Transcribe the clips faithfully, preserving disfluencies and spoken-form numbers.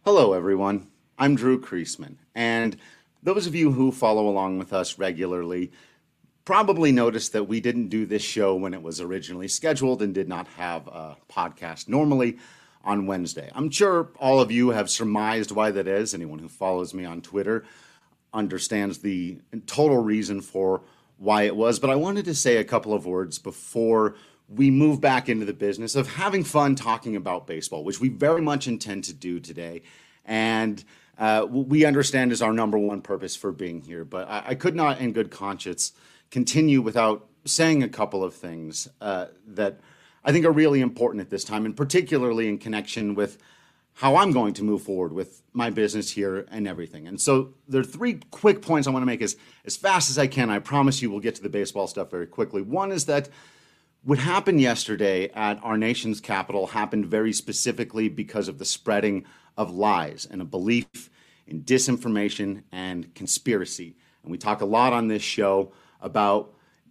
Hello, everyone. I'm Drew Kreisman, and those of you who follow along with us regularly probably noticed that we didn't do this show when it was originally scheduled and did not have a podcast normally on Wednesday. I'm sure all of you have surmised why that is. Anyone who follows me on Twitter understands the total reason for why it was, but I wanted to say a couple of words before we move back into the business of having fun talking about baseball, which we very much intend to do today. And uh, we understand is our number one purpose for being here. But I, I could not, in good conscience, continue without saying a couple of things uh, that I think are really important at this time, and particularly in connection with how I'm going to move forward with my business here and everything. And so there are three quick points I want to make as, as fast as I can. I promise you we'll get to the baseball stuff very quickly. One is that what happened yesterday at our nation's capital happened very specifically because of the spreading of lies and a belief in disinformation and conspiracy. And we talk a lot on this show about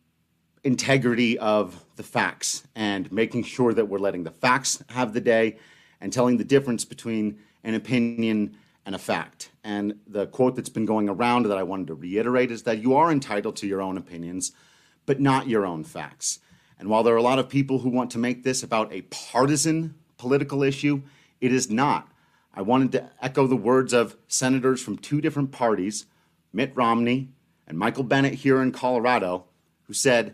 integrity of the facts and making sure that we're letting the facts have the day and telling the difference between an opinion and a fact. And the quote that's been going around that I wanted to reiterate is that you are entitled to your own opinions, but not your own facts. And while there are a lot of people who want to make this about a partisan political issue, it is not. I wanted to echo the words of senators from two different parties, Mitt Romney and Michael Bennet here in Colorado, who said,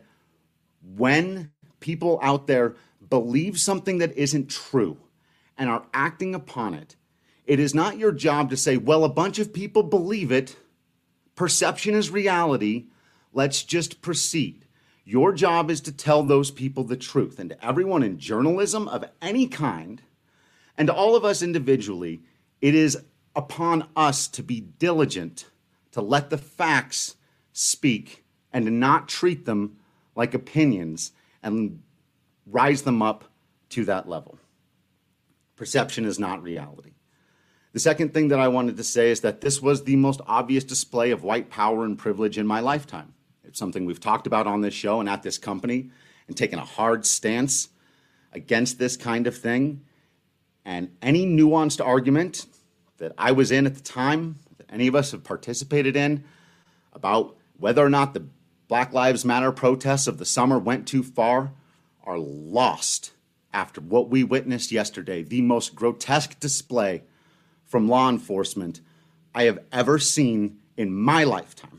when people out there believe something that isn't true and are acting upon it, it is not your job to say, well, a bunch of people believe it. Perception is reality. Let's just proceed. Your job is to tell those people the truth. And to everyone in journalism of any kind, and to all of us individually, it is upon us to be diligent, to let the facts speak, and to not treat them like opinions and rise them up to that level. Perception is not reality. The second thing that I wanted to say is that this was the most obvious display of white power and privilege in my lifetime. It's something we've talked about on this show and at this company and taken a hard stance against this kind of thing. And any nuanced argument that I was in at the time, that any of us have participated in, about whether or not the Black Lives Matter protests of the summer went too far, are lost after what we witnessed yesterday, the most grotesque display from law enforcement I have ever seen in my lifetime.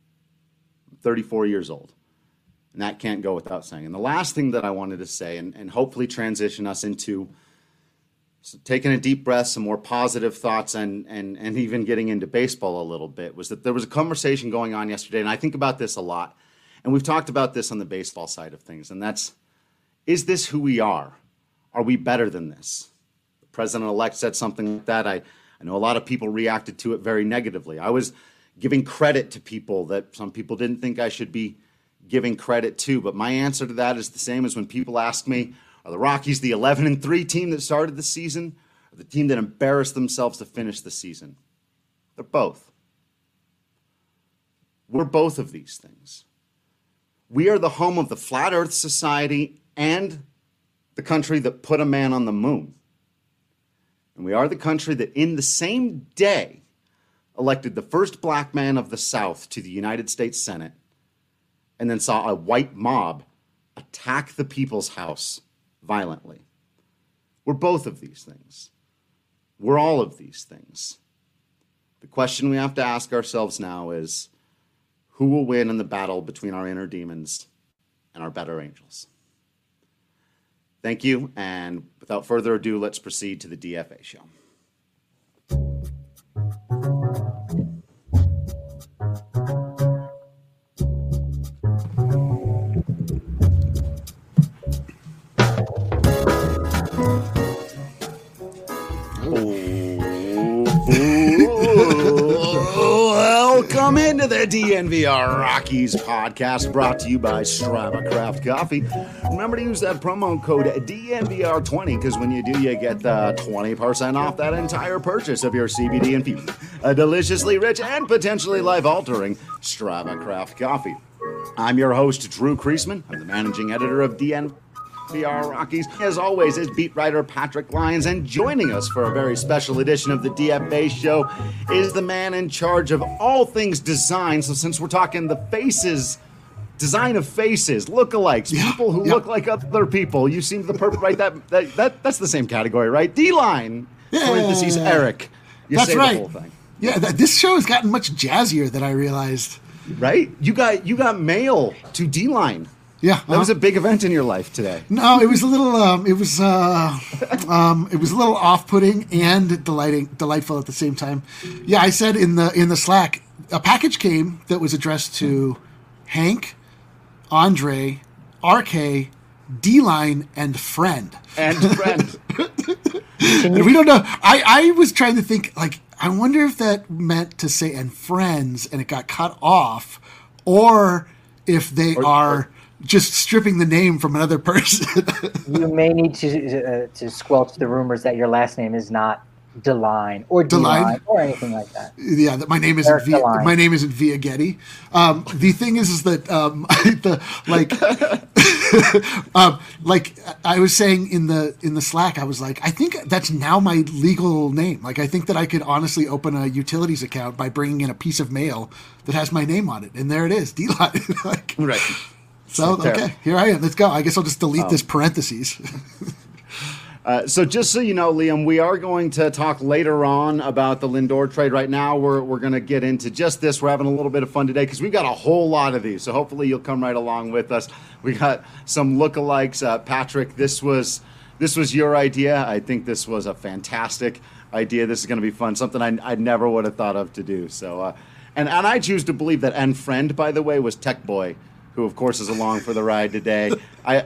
I'm thirty-four years old, and that can't go without saying. And the last thing that I wanted to say, and, and hopefully transition us into so taking a deep breath, some more positive thoughts, and, and, and even getting into baseball a little bit, was that there was a conversation going on yesterday, and I think about this a lot, and we've talked about this on the baseball side of things, and that's, is this who we are? Are we better than this? The president-elect said something like that. I, I know a lot of people reacted to it very negatively. I was giving credit to people that some people didn't think I should be giving credit to, but my answer to that is the same as when people ask me, are the Rockies the eleven and three team that started the season, or the team that embarrassed themselves to finish the season? They're both. We're both of these things. We are the home of the Flat Earth Society and the country that put a man on the moon. And we are the country that in the same day elected the first black man of the South to the United States Senate, and then saw a white mob attack the People's House violently. We're both of these things. We're all of these things. The question we have to ask ourselves now is, who will win in the battle between our inner demons and our better angels? Thank you, and without further ado, let's proceed to the D F A show. Welcome into the D N V R Rockies podcast, brought to you by Strava Craft Coffee. Remember to use that promo code D N V R twenty, because when you do, you get uh, twenty percent off that entire purchase of your C B D infused, a deliciously rich and potentially life-altering Strava Craft Coffee. I'm your host, Drew Kreisman. I'm the managing editor of D N. P R Rockies. As always, is beat writer Patrick Lyons, and joining us for a very special edition of the D F Base Show is the man in charge of all things design. So since we're talking the faces, design of faces, lookalikes, yeah, people who yeah. look like other people, you seem the perfect, right? That, that, that That's the same category, right? D-line, Yeah. parentheses, Eric. You That's say right. the whole thing. Yeah, th- this show has gotten much jazzier than I realized. Right? You got you got mail to D-line. Yeah, That was a big event in your life today. No, it was a little. Um, it was. Uh, um, it was a little off-putting and delighting, delightful at the same time. Yeah, I said in the in the Slack, a package came that was addressed to Hank, Andre, R K, D-Line, and friend. And friend. And we don't know. I, I was trying to think. Like, I wonder if that meant to say and friends, and it got cut off, or if they Or- are. or- just stripping the name from another person. You may need to uh, to squelch the rumors that your last name is not DeLine or DeLine? D-Line or anything like that. Yeah, that my name isn't Eric via, DeLine. my name isn't Via Getty. Um, the thing is, is that um, the like, um, like I was saying in the in the Slack, I was like, I think that's now my legal name. Like, I think that I could honestly open a utilities account by bringing in a piece of mail that has my name on it, and there it is, D-Line. Like, Right. so There. okay, here I am. Let's go. I guess I'll just delete this parentheses. Uh, so just so you know, Liam, we are going to talk later on about the Lindor trade. Right now, we're we're going to get into just this. We're having a little bit of fun today because we've got a whole lot of these. So hopefully you'll come right along with us. We got some lookalikes. Uh, Patrick, this was this was your idea. I think this was a fantastic idea. This is going to be fun. Something I, I never would have thought of to do. So, uh, and and I choose to believe that. And friend, by the way, was Tech Boy, who of course is along for the ride today. I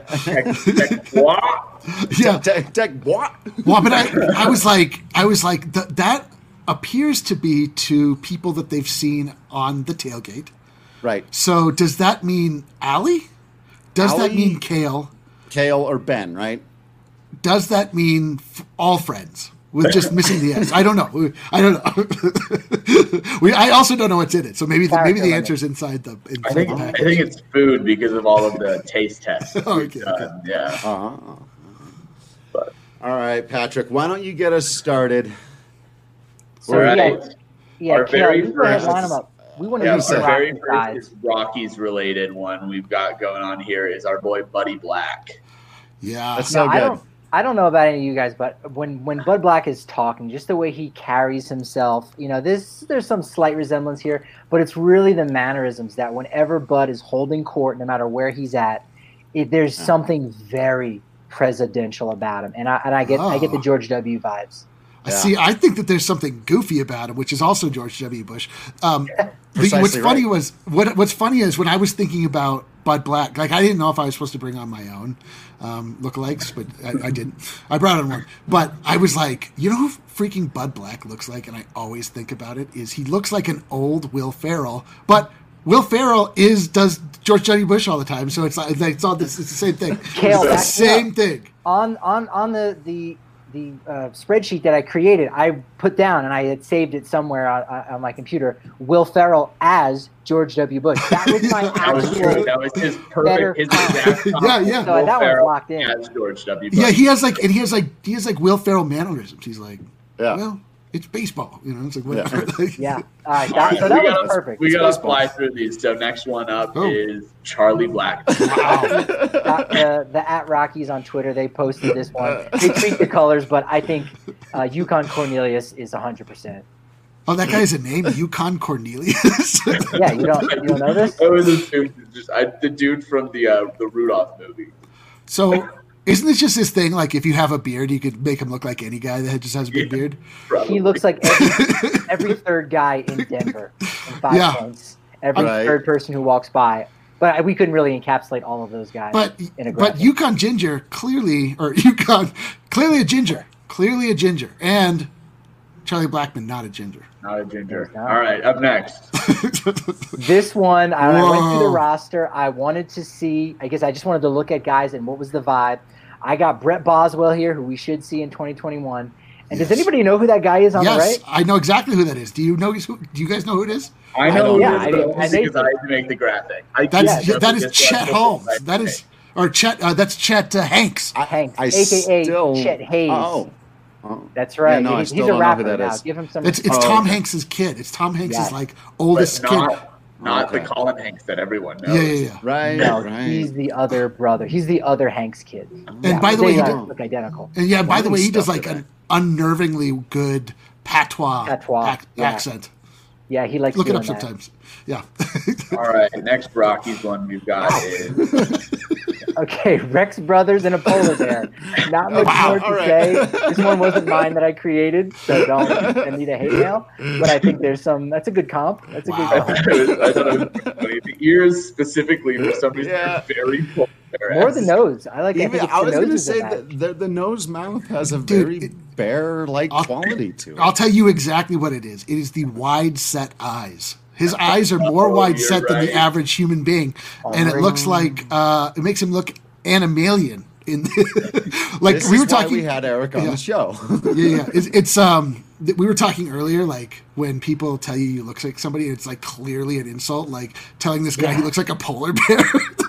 Yeah. Tech, tech what? Well, but I, I was like, I was like, th- that appears to be to people that they've seen on the tailgate. Right. So does that mean Allie? Does that Allie? mean Kale? Kale or Ben, right? Does that mean f- all friends with just missing the S? I don't know. I don't know. we, I also don't know what's in it. So maybe the, maybe the answer is inside the inside I think the I package. think it's food because of all of the taste tests. we've Okay, done. okay. Yeah. Uh-huh. But All right, Patrick, why don't you get us started? So All right. yeah, yeah, Our Kale, very you go ahead, first- line them up. We want to yeah, do our some very Rockies guys. first Rockies related one we've got going on here is our boy Buddy Black. Yeah. That's No, so I good. don't. I don't know about any of you guys, but when when Bud Black is talking, just the way he carries himself, you know, this there's some slight resemblance here, but it's really the mannerisms that whenever Bud is holding court, no matter where he's at, it, there's something very presidential about him, and I and I get I get the Oh. George W. vibes. I Yeah. see. I think that there's something goofy about him, which is also George W. Bush. Um, the- Precisely what's funny right. was what What's funny is when I was thinking about Bud Black, like I didn't know if I was supposed to bring on my own um, lookalikes, but I, I didn't. I brought on one, but I was like, you know who freaking Bud Black looks like, and I always think about it is he looks like an old Will Ferrell, but Will Ferrell is does George W. Bush all the time, so it's like it's all this. It's the same thing. Kale, it's the back me same up. thing. On on on the the the uh, spreadsheet that I created, I put down and I had saved it somewhere on, on my computer. Will Ferrell as George W. Bush. That was my That was true. actual. That was his better perfect, his exact Yeah, yeah. So Will that one's Ferrell locked in. as George W. Bush. Yeah, he has like, and he has like, he has like Will Ferrell mannerisms. He's like, Yeah. well, it's baseball, you know. It's like whatever. Yeah. All right. All That, right, so that we was gotta- perfect. We It's got to baseball. fly through these. So next one up Oh. is Charlie Black. Wow. Uh, the, the at Rockies on Twitter, they posted this one. They tweaked the colors, but I think uh, Yukon Cornelius is one hundred percent. Oh, that guy has a name, Yukon Cornelius. Yeah, you don't you don't know this? I was assumed just I, the dude from the uh, the Rudolph movie. So, isn't this just this thing? Like, if you have a beard, you could make him look like any guy that just has a big Yeah. beard. Probably. He looks like every, every third guy in Denver in five Yeah. points. Every Right. third person who walks by. But we couldn't really encapsulate all of those guys But in a but graphic. Yukon Ginger clearly, or Yukon clearly a ginger, clearly a ginger, and Charlie Blackmon not a ginger. Not a ginger. Not. All right, up next. This one, I, I went through the Whoa. roster. I wanted to see, I guess I just wanted to look at guys and what was the vibe. I got Brett Boswell here, who we should see in twenty twenty-one. And Yes. does anybody know who that guy is on the Yes, right? I know exactly who that is. Do you know? Who, do you guys know who it is? I I know don't- who yeah, it is, I but did. only I made because I had to make the graphic. I That's can't that just is look Chet at Holmes. this That is or Chet. Uh, that's Chet uh, Hanks. I, Hanks, I A K A still, Chet Hayes. Oh, oh. That's right. Yeah, no, I he's, still he's a don't know rapper who that now. is. Give him some. It's it's Oh, Tom okay. Hanks's kid. It's Tom Hanks's Yes. like But oldest kid. not, not Okay. the Colin Hanks that everyone knows. Yeah, yeah, yeah. Right, no, right. he's the other brother. He's the other Hanks kid. And by the way, they he uh, did- look identical. And yeah, by the Funny way, he does stuff like today. an unnervingly good patois, Patois, ac- yeah. accent. Yeah, he likes Look it doing up that. sometimes. Yeah. All right, next Rockies one we've got is Okay, Rex Brothers and a polar bear. Not much Wow, more to all right. say. This one wasn't mine that I created, so don't send me the hate mail. But I think there's some. That's a good comp. That's a Wow. good comp. I thought it was funny. The ears specifically for some reason Yeah. are very polar. More the nose. I like. I Even, think it's I the was going to noses say that that match. the, the nose mouth has a Dude, very it- bear-like I'll- quality to it. I'll tell you exactly what it is. It is the wide set eyes. His eyes are more Oh, wide you're set than the right. average human being, and it looks like uh, it makes him look animalian. In like this we were is why talking, we had Eric on Yeah. the show. yeah, yeah. It's, it's um, th- we were talking earlier, like when people tell you you look like somebody, it's like clearly an insult. Like telling this guy he Yeah. looks like a polar bear.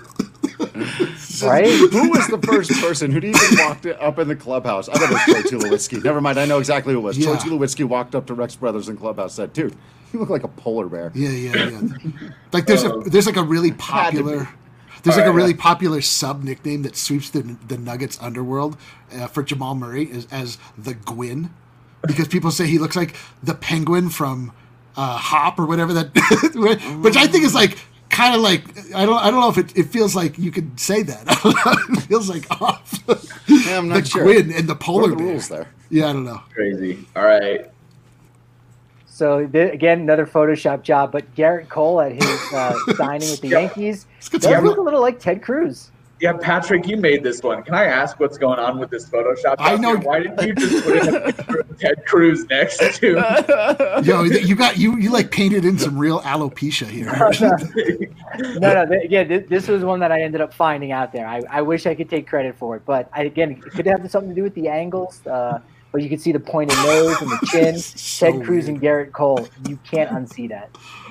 Right? Who was the first person who even walked up in the clubhouse? I bet it was Troy Tulowitzki. Never mind, I know exactly who it was. Yeah. Troy Tulowitzki walked up to Rex Brothers in clubhouse, said, "Dude, you look like a polar bear." Yeah, yeah, yeah. Like there's a there's like a really Had to popular be. there's like a Alright. really popular sub nickname that sweeps the the Nuggets underworld uh, for Jamal Murray as, as the Gwyn, because people say he looks like the penguin from uh, Hop or whatever that, which I think is like kind of like I don't I don't know if it, it feels like you could say that. It feels like off. Yeah, I'm not the sure. Gwyn and the What polar are the bear. rules there? Yeah, I don't know. Crazy. All right. So th- again, another Photoshop job, but Garrett Cole at his uh, signing with the Yeah. Yankees good does time. look a little like Ted Cruz. Yeah, Patrick, you made this one. Can I ask what's going on with this Photoshop? I know- Why didn't you just put in a picture of Ted Cruz next to? Yo, you got you you like painted in some real alopecia here. No, no. Th- again, this, this was one that I ended up finding out there. I, I wish I could take credit for it, but I, again, it could have something to do with the angles. Uh, but you can see the pointed nose and the chin. So Ted Cruz weird. and Garrett Cole. You can't unsee that.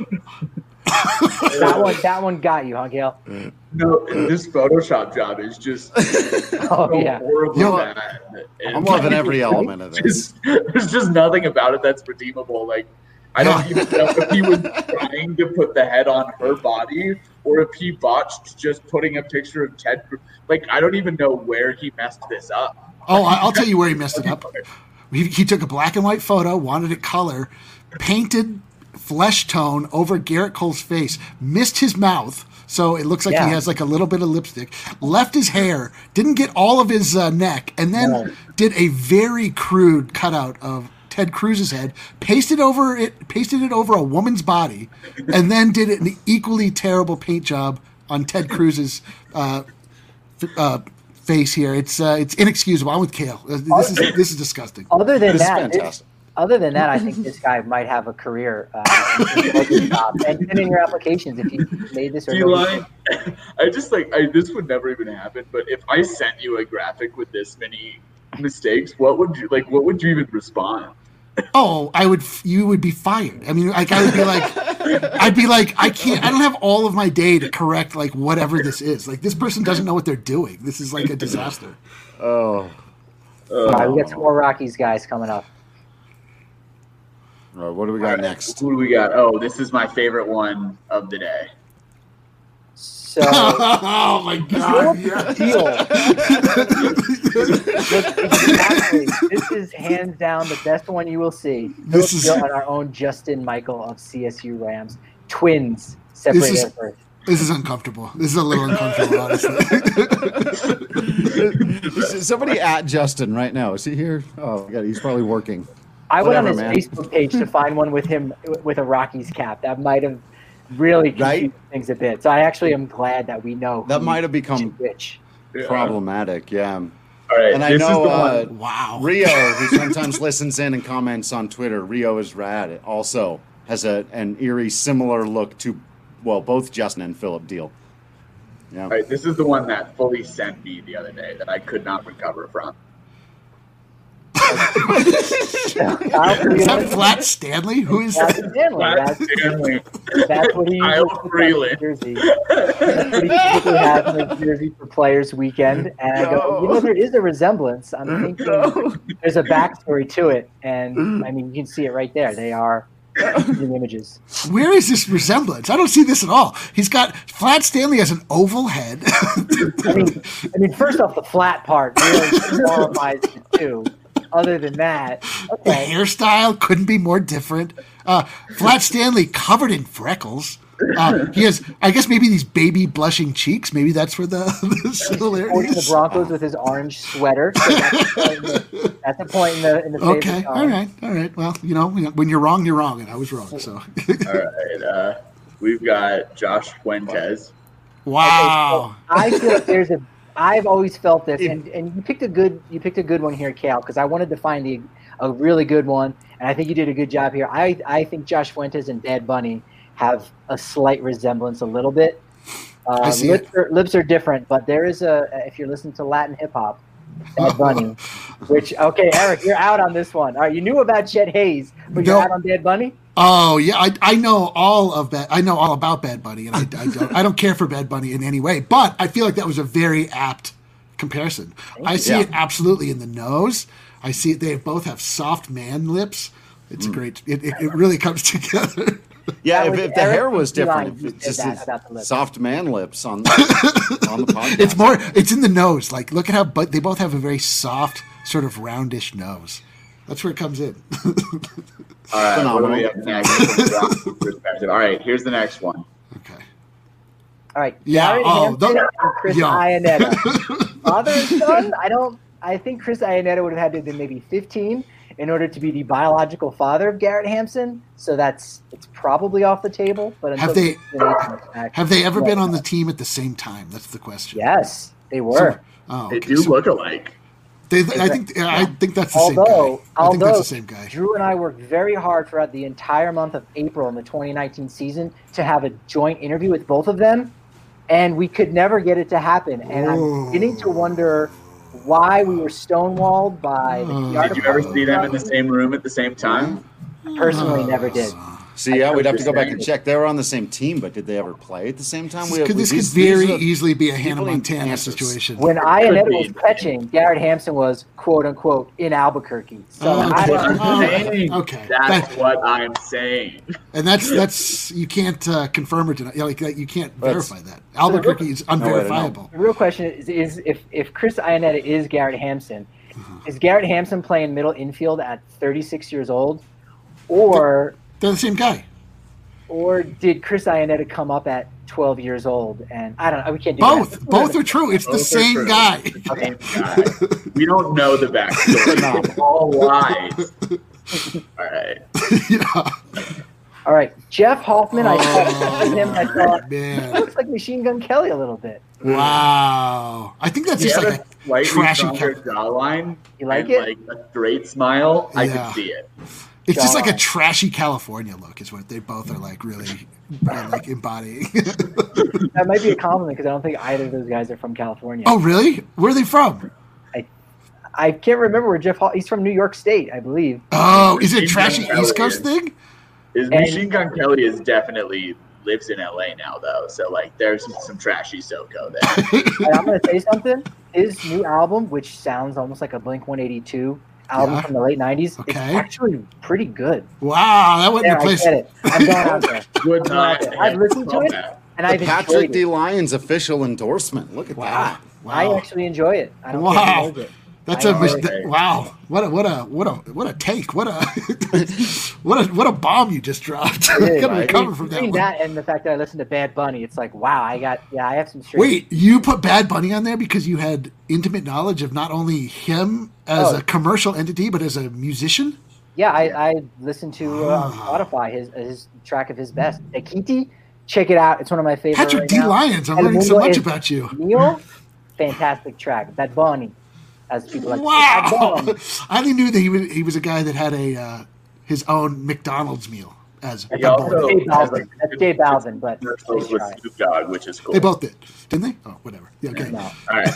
that one, that one got you, huh, Gail? No, this Photoshop job is just Oh so yeah. horribly Yo, bad. And I'm loving every element of this. just, there's just nothing about it that's redeemable. Like, I don't Yeah. even know if he was trying to put the head on her body or if he botched just putting a picture of Ted Cruz. Like, I don't even know where he messed this up. Oh, I- I'll tell you where he messed it up. He, he took a black and white photo, wanted it color, painted flesh tone over Garrett Cole's face, missed his mouth, so it looks like Yeah. he has like a little bit of lipstick, left his hair, didn't get all of his uh, neck, and then No. did a very crude cutout of Ted Cruz's head, pasted over it, pasted it over a woman's body, and then did an equally terrible paint job on Ted Cruz's uh, f- uh, face here. It's uh, it's inexcusable. I'm with Kale. Uh, This is this is disgusting. Other than This is that, this- fantastic. other than that, I think this guy might have a career uh, in the local job. And, and in your applications, if you made this or D-line, I just like I this would never even happen. But if I sent you a graphic with this many mistakes, what would you like? What would you even respond? Oh, I would. You would be fired. I mean, like I would be like, I'd be like, I can't. I don't have all of my day to correct like whatever this is. Like this person doesn't know what they're doing. This is like a disaster. Oh, All right, we got some more Rockies guys coming up. all right, what do we got next? Who do we got? Oh, this is my favorite one of the day. So Oh my god! Philip Deal. Look, exactly. This is hands down the best one you will see. This Philip is- Deal and our own Justin Michael of C S U Rams. Twins separated This is- at birth. This is uncomfortable. This is a little uncomfortable, honestly. Somebody at Justin right now. Is he here? Oh, God, he's probably working. I went on Whatever, his man. Facebook page to find one with him with a Rockies cap. That might have really confused Right? things a bit. So I actually am glad that we know That who might have become which. Yeah. problematic. Yeah. All right, And I this know is the uh, one. Wow. Rio, who sometimes listens in and comments on Twitter, Rio is rad. Also has a an eerie similar look to, well, both Justin and Philip Deal. Yeah. All right, this is the one that fully sent me the other day that I could not recover from. Is that Flat Stanley? Who is That's that? Stanley. Flat That's, Stanley. that's what he Kyle usually puts on Freeland. his jersey. That's what he typically has in his jersey for Players Weekend. And I go, you know, there is a resemblance. I'm thinking there's a backstory to it. And, I mean, you can see it right there. They are in images. Where is this resemblance? I don't see this at all. He's got Flat Stanley has an oval head. I mean, I mean, first off, the flat part really qualifies it too. Other than that, The okay. hairstyle couldn't be more different. Uh, Flat Stanley covered in freckles. Uh, he has, I guess, maybe these baby blushing cheeks. Maybe that's where the, the similarity Supporting the is. Broncos with his orange sweater. So that's, a point in the, that's a point in the in the favor Okay, column. all right, all right. Well, you know, when you're wrong, you're wrong, and I was wrong. So, All right. Uh, we've got Josh Fuentes. wow. I feel like there's a. I've always felt this, and, and you picked a good you picked a good one here, Cal, because I wanted to find the a really good one, and I think you did a good job here. I I think Josh Fuentes and Bad Bunny have a slight resemblance, a little bit. Uh, I see lips, it. are, lips are different, but there is a. If you're listening to Latin hip hop, Bad Bunny, which okay, Eric, you're out on this one. All right, you knew about Chet Hayes, but you're No. out on Bad Bunny. Oh yeah, I, I know all of that. I know all about Bad Bunny, and I, I don't I don't care for Bad Bunny in any way. But I feel like that was a very apt comparison. I see Yeah. it absolutely in the nose. I see it. They both have soft man lips. It's a great. It, it, it really comes together. Yeah, That if, was if the Eric hair was different, Line if who it's said just that his about the lips. soft man lips on the, on the podcast. It's more. It's in the nose. Like look at how. But they both have a very soft, sort of roundish nose. That's where it comes in. All right. What do Phenomenal. we have next? from the Broncos perspective? All right. Here's the next one. Okay. All right, Yeah, Garrett oh, Hampton the- and Chris yo. Iannetta. Father and son, I don't. I think Chris Iannetta would have had to have been maybe fifteen in order to be the biological father of Garrett Hampson. So that's it's probably off the table. But until Have they- back, Have they ever Yeah. been on the team at the same time? That's the question. Yes, they were. Oh, They okay. do So look alike. they, I think. I think that's the same although, guy. I although think that's the same guy. Drew and I worked very hard throughout the entire month of April in the twenty nineteen season to have a joint interview with both of them, and we could never get it to happen. And I'm beginning to wonder why we were stonewalled by the P R Did you ever department. see them in the same room at the same time? Personally, never did. See, yeah, we'd have to go back Understand. and check. They were on the same team, but did they ever play at the same time? We, Could, we- this these- could very these are- easily be a Hannah people in Montana Kansas. situation. When Iannetta be. was catching, Garrett Hampson was "quote unquote" in Albuquerque. So Oh, I okay. don't, Oh, Saying. okay. That's That- what I'm saying. and that's that's you can't uh, confirm or deny. Like that, you can't That's- verify that. Albuquerque is way to know. unverifiable. the real question is, is if if Chris Iannetta is Garrett Hampson, is Garrett Hampson playing middle infield at thirty-six years old, or They're the same guy. or did Chris Iannetta come up at twelve years old? And I don't know. We can't do Both. that. Both are true. It's the Both are same true. guy. Same guy. We don't know the backstory. It's all lies. All right. Yeah. All right, Jeff Hoffman. I saw him. I thought he Man. looks like Machine Gun Kelly a little bit. Wow. I think that's He just had like a a slightly trashy. stronger Cal- jawline. You like and it? Like a straight smile. I Yeah. could see it. it's just like a jawline. trashy California look. Is what they both are like really uh, like embodying. That might be a compliment because I don't think either of those guys are from California. Oh, really? Where are they from? I can't remember where Jeff. Ho- He's from New York State, I believe. Oh, is it a Machine trashy Gun East Kelly Coast is- thing? Is And- Machine Gun Kelly is definitely lives in L A now though, so like there's some, some trashy SoCo there. And I'm going to say something. His new album, which sounds almost like a Blink one eighty-two album Yeah. from the late nineties, is Okay. actually pretty good. Wow, that wouldn't There, I replace. get it. I'm going out there. Good night. I've listened to it, and The I've Patrick enjoyed D. it. Lyons official endorsement. Look at Wow. that. I Wow. actually enjoy it. I don't Wow. think he knows it. That's I a know mis- it. that- wow. What a what a what a what a take. What a what a what a bomb you just dropped. It is, Gotta right? recover from that Between one. that and the fact that I listened to Bad Bunny, it's like, wow, I got, yeah, I have some straight. Wait, you put Bad Bunny on there because you had intimate knowledge of not only him as Oh. a commercial entity but as a musician? Yeah, I, I listened to uh, on Spotify his his track of his best. Ekiti, check it out. It's one of my favorites. Patrick right D. now. Lyons, I'm El learning so Mundo much es about you. Neil, fantastic track. Bad Bunny, as people like. to say. Wow. Bad Bunny. I only knew that he was he was a guy that had a uh, his own McDonald's meal as He Bud also- Bolden. Dave Balvin. That's Dave Balvin, but commercials nice with try. Snoop Dogg, which is cool. They both did, didn't they? Oh, whatever. Yeah, okay. No. All right,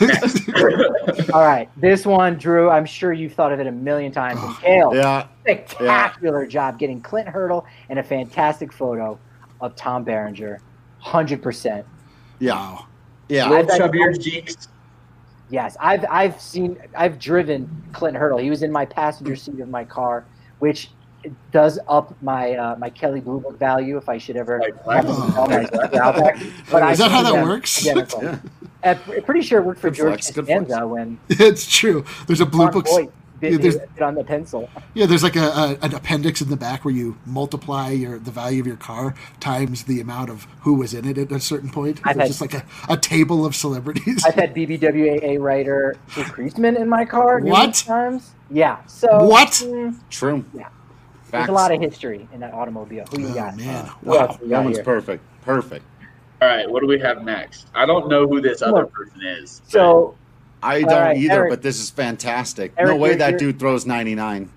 next. All right, this one, Drew. I'm sure you've thought of it a million times. And Oh, Kale, Yeah. spectacular job getting Clint Hurdle and a fantastic photo of Tom Berenger. one hundred percent. Yeah. Wow. Yeah. Little I've- chubbier cheeks. Yes, I've I've seen I've driven Clint Hurdle. He was in my passenger seat of my car, which does up my uh, my Kelly Blue Book value if I should ever Like, have to wow. sell my Outback. But I Is that how see that them works? identical. Yeah. I'm pretty sure it worked for Good George flex, good flex. Costanza when It's true. There's a blue Ron book. Voight bit, yeah, there's- bit on the pencil. Yeah, there's like a, a an appendix in the back where you multiply your the value of your car times the amount of who was in it at a certain point. I've There's had- just like a, a table of celebrities. I've had B B W A A writer Drew Creasman in my car numerous What? times. Yeah. So What? mm, True. Yeah. Facts. there's a lot of history in that automobile. Who you Oh, got? man. Who else Wow. we That got one's here? perfect. Perfect. All right, what do we have next? I don't know who this other Look, person is. but- So I All don't right, either, Eric. but this is fantastic. Eric, no way you're- that you're- dude throws ninety-nine.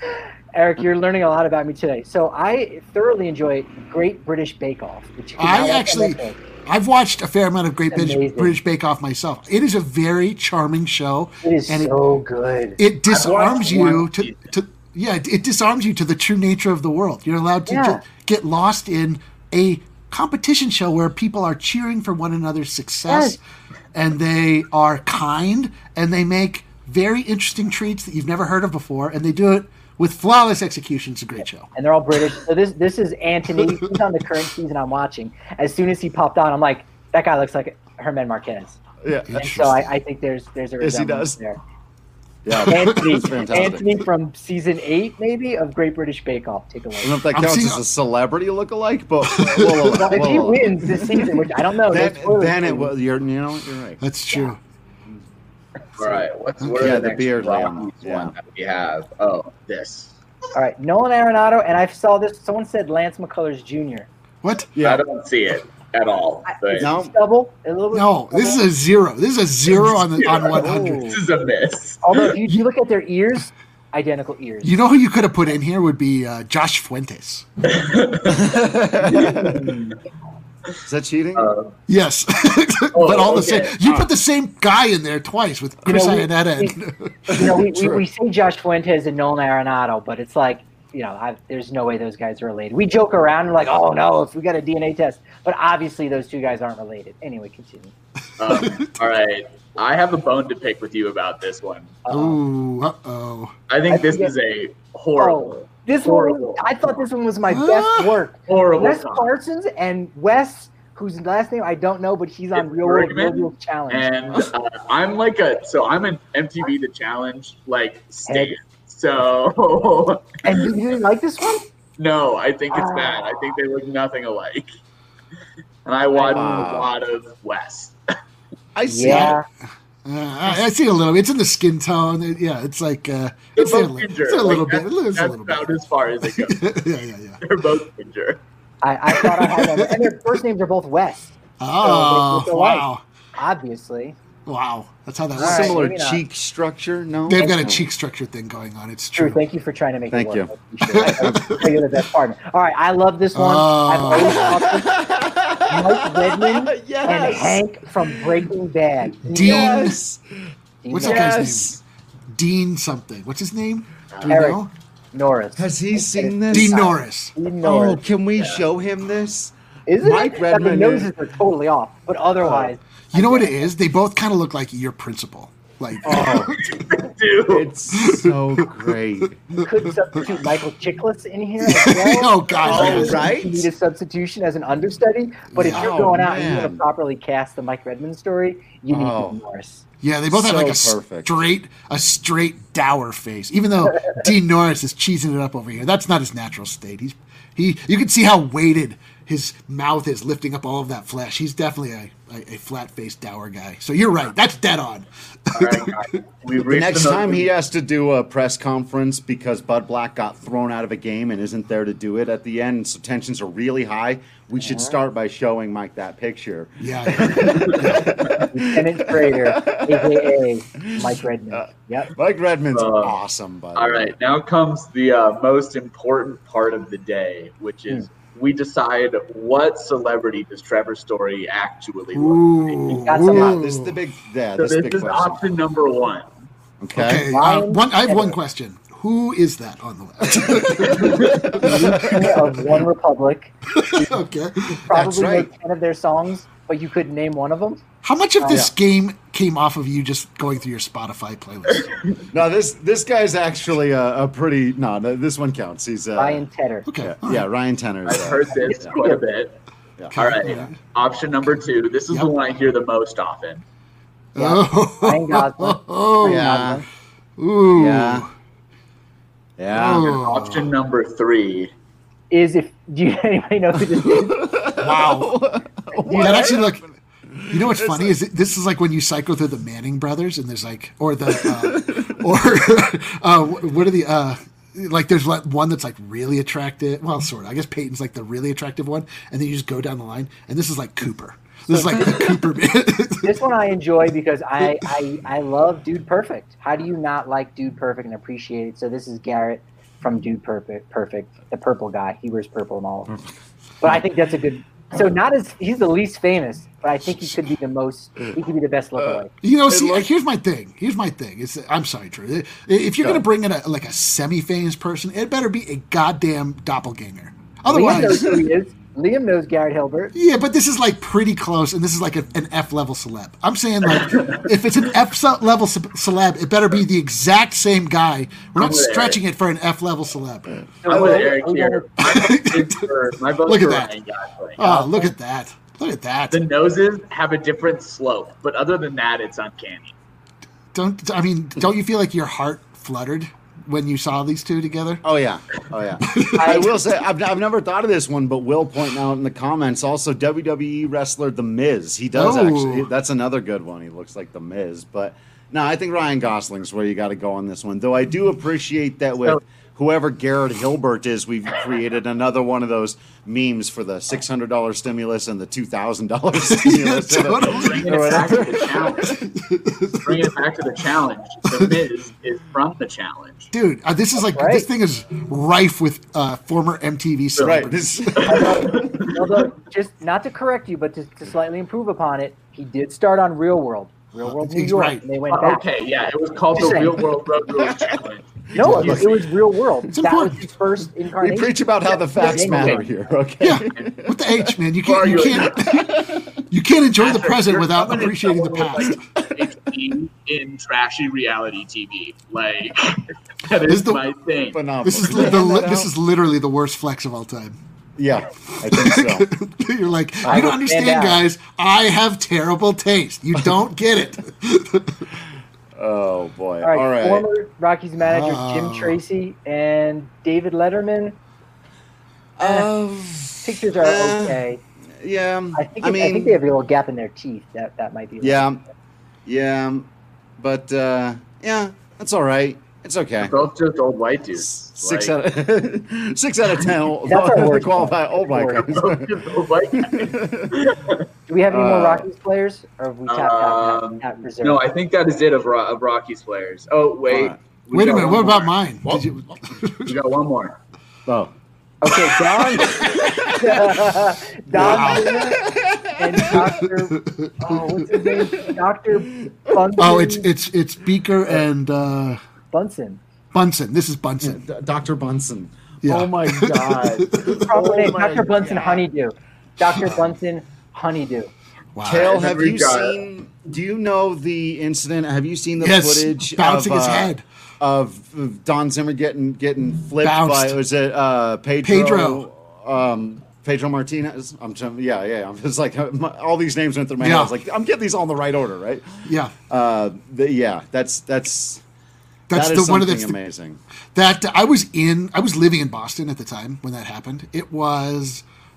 Eric, you're learning a lot about me today. So I thoroughly enjoy Great British Bake Off. Which came out I on actually, Netflix. I've watched a fair amount of Great British, Amazing. British Bake Off myself. It is a very charming show, It is and so good. it, it disarms watched you one to, season. to yeah, it, it disarms you to the true nature of the world. You're allowed to Yeah. ju- get lost in a competition show where people are cheering for one another's success, Yes. and they are kind, and they make very interesting treats that you've never heard of before, and they do it with flawless execution. It's a great show. And they're all British. So this this is Anthony. He's on the current season I'm watching. As soon as he popped on, I'm like, that guy looks like Herman Marquez. Yeah. And so I, I think there's there's a Yes, he resemblance does. there. Yeah. Anthony, That's fantastic. Anthony from season eight, maybe, of Great British Bake Off. Take a I don't know look. if that I'm counts seeing- as a celebrity lookalike, but we'll, Well, if he we'll- wins this season, which I don't know, then, no spoilers then for it you. was. You're, you know, you're right. That's true. All right, what's what are Yeah, the, the next beard Rockies lamb, yeah. one that we have? Oh, this. All right, Nolan Arenado, and I saw this. Someone said Lance McCullers Junior What? I Yeah. don't see it at all. I- But It's No. stubble. A little bit No, this is a zero. This is a zero on the on Zero. one hundred. this is a miss. Although if you, you look at their ears, identical ears. You know who you could have put in here would be uh, Josh Fuentes. Is that cheating? Uh, Yes, Oh, but all the okay. same. You put the same guy in there twice with You Chris know, we- Iannetta. and- You know, we, we, True. we say Josh Fuentes and Nolan Arenado, but it's like, you know, I, there's no way those guys are related. We joke around and like, oh no, if we got a D N A test, but obviously those two guys aren't related. Anyway, continue. um, all right, I have a bone to pick with you about this one. Ooh, uh oh. I think I this think is a horrible, Oh, this horrible, one, I thought this one was my Ah. best work. horrible. Wes comment. Parsons and Wes, whose last name I don't know, but he's on It's Real World Bergman, Real World Challenge. And uh, I'm like a so I'm an M T V The Challenge like stan. So And you didn't like this one? no, I think it's Ah. bad. I think they look nothing alike. And I watch Wow. a lot of Wes. I see. Yeah. Uh, I, I see a little. It's in the skin tone. It- yeah, it's like uh, They're it's there a both little, ginger. it's a Like, little bit. that's, It's a that's little bit. about as far as it goes. yeah, yeah, yeah. They're both ginger. I, I thought I had them. And their first names are both Wes, Oh, look alike. wow, obviously. wow. That's how that All works. right, Similar maybe not. cheek structure. No. They've got a No. cheek structure thing going on. It's True. true. Thank you for trying to make Thank it work. I appreciate it. I, I, I, you're the best partner. All right, I love this one. Oh. I've always thought this. Mike Redmond and Yes. Hank from Breaking Bad. Dean- Yes. Dean What's that Norris. guy's Yes. name? Dean something. What's his name? Do we Eric. know? Norris. Has he seen this? Dean Norris. Dean Oh, Norris. can we show him this? Isn't Mike it? Redmond I mean, noses is- are totally off, but otherwise, You know what it is? They both kind of look like your principal. Like, Oh, Dude. it's so great. you could substitute Michael Chiklis in here as well. oh god, Oh, yes. right. You need a substitution as an understudy, but if you're Oh, going out and you want man. to properly cast the Mike Redmond story, you need Oh. Dean Norris. Yeah, they both have So like a perfect. straight, a straight dour face. Even though Dean Norris is cheesing it up over here, that's not his natural state. He's he. You can see how weighted his mouth is, lifting up all of that flesh. He's definitely a a, a flat faced dour guy. So you're right. That's dead on. All right, guys. We've The reached next another- time he has to do a press conference because Bud Black got thrown out of a game and isn't there to do it at the end, so tensions are really high, we should start by showing Mike that picture. Yeah. yeah. Lieutenant Trader, aka Mike Redmond. Yep. Mike Redmond's Uh, awesome, by the All way. right, now comes the uh, most important part of the day, which is we decide what celebrity does Trevor Story actually look like. Ooh. got some- ooh. This is the big, yeah, So this, this big is question. option number one. Okay. Okay. Uh, Ryan one, I have one Tedder. question. Who is that on the list? Lieutenant of One Republic. Okay. Probably right. made ten of their songs, but you couldn't name one of them. How much of this Yeah. game came off of you just going through your Spotify playlist? No, this this guy's actually a, a pretty. No, no, this one counts. He's uh, Ryan Tedder. Okay. Yeah, all yeah, right. Ryan Tenner. I've heard this quite a bit. Yeah. All right, Yeah. option number two. This is Yep. the one I hear the most often. Oh, Ryan Gosling. oh, Ryan Yeah. Gosling ooh. Yeah. Yeah. Oh. Option number three. is if do you anybody know who this is? Wow. You That know? actually look. You know what's funny is it, this is like when you cycle through the Manning brothers, and there's like, or the, uh, or uh, what are the, uh, like there's like one that's like really attractive. Well, sort of. I guess Peyton's like the really attractive one, and then you just go down the line, and this is like Cooper. This is like the Cooper bit. This one I enjoy because I, I I love Dude Perfect. How do you not like Dude Perfect and appreciate it? So this is Garrett from Dude Perfect, Perfect, the purple guy. He wears purple and all of them. But I think that's a good. So not as he's the least famous, but I think he could be the most. He could be the best lookalike. You know, see, looked- here's my thing. Here's my thing. It's, I'm sorry, Drew. If you're Go. going to bring in a like a semi-famous person, it better be a goddamn doppelganger. Liam knows Otherwise, who he is. Liam knows Garrett Hilbert. yeah, but this is like pretty close, and this is like a, an F level celeb. I'm saying like, if it's an F ce- level ce- celeb, it better be the exact same guy. We're not I'm with stretching it for an F level celeb. So I'm with we're- Eric we're here. gonna- My vote is for, my vote Look for at that. Ryan Gosling. Oh, look at that! Look at that! The noses have a different slope, but other than that, it's uncanny. Don't I mean? Don't you feel like your heart fluttered when you saw these two together? Oh yeah, oh yeah. I will say I've, I've never thought of this one, but Will pointing out in the comments also W W E wrestler The Miz. He does Oh. actually. That's another good one. He looks like The Miz, but no, I think Ryan Gosling's where you got to go on this one. Though I do appreciate that with So- whoever Garrett Hilbert is, we've created another one of those memes for the six hundred dollar stimulus and the two thousand dollar stimulus. totally. Bringing it back to the challenge. Bringing it back to the challenge. The Miz is from the challenge. Dude, uh, this is like Right. this thing is rife with uh, former M T V Right. celebrities. This, Although, just not to correct you, but to, to slightly improve upon it, he did start on Real World, Real World New He's York, right. and they went back. Okay, yeah, it was called Just the saying. Real World Road Rules Challenge. No, it You was, it was Real World. It's that important. was his first we incarnation. preach about how the facts Yeah. matter here. Okay. Yeah, with the H, man. You Who are can't. You you? can't. You can't enjoy the Patrick, present you're without coming in appreciating the trouble past. with, like, in, in trashy reality T V. Like that This is is the- my thing. Phenomenal. This is Can you li- the, hand li- that this out? is literally the worst flex of all time. Yeah, I think so. You're like, I you don't will understand, stand out. guys. I have terrible taste. You don't get it. Oh boy! All right, All right. former Rockies manager Oh. Jim Tracy and David Letterman. Uh, Pictures are uh, okay. Yeah, I think I it- mean, I think they have a little gap in their teeth. That that might be. yeah, yeah, but uh, yeah, that's all right. It's okay. They're both just old white dudes. Six Like, out of six out of ten. Old, That's our worst qualify old white Worst. guys. both just old white guys. Do we have any more Uh, Rockies players, or have we tapped out Um, that reserve? No, I think that is it of, Ro- of Rockies players. Oh wait, Alright. we Wait a got minute. one What about more. mine? Did you, We got one more. Oh, Okay, Don, Don Wow. Zimmer and Doctor Oh, what's his name? Doctor Bunsen. oh, it's it's it's Beaker and uh, Bunsen. Bunsen. This is Bunsen. D- Doctor Bunsen. Yeah. Oh my God. Proper Oh name, my Doctor Bunsen God. Honeydew. Doctor Bunsen Honeydew. Wow. Kale, And then have we've you got- seen? Do you know the incident? Have you seen the Yes, footage bouncing of, his uh, head. of of Don Zimmer getting getting flipped Bounced. by? Was it uh, Pedro? Pedro. Um, Pedro Martinez. I'm trying, yeah, yeah. I'm just like my, all these names went through my Yeah. head. I was like, I'm getting these all in the right order, right? Yeah. Uh, the, yeah, that's that's That's that is the one of something the amazing. that I was in. I was living in Boston at the time when that happened. It was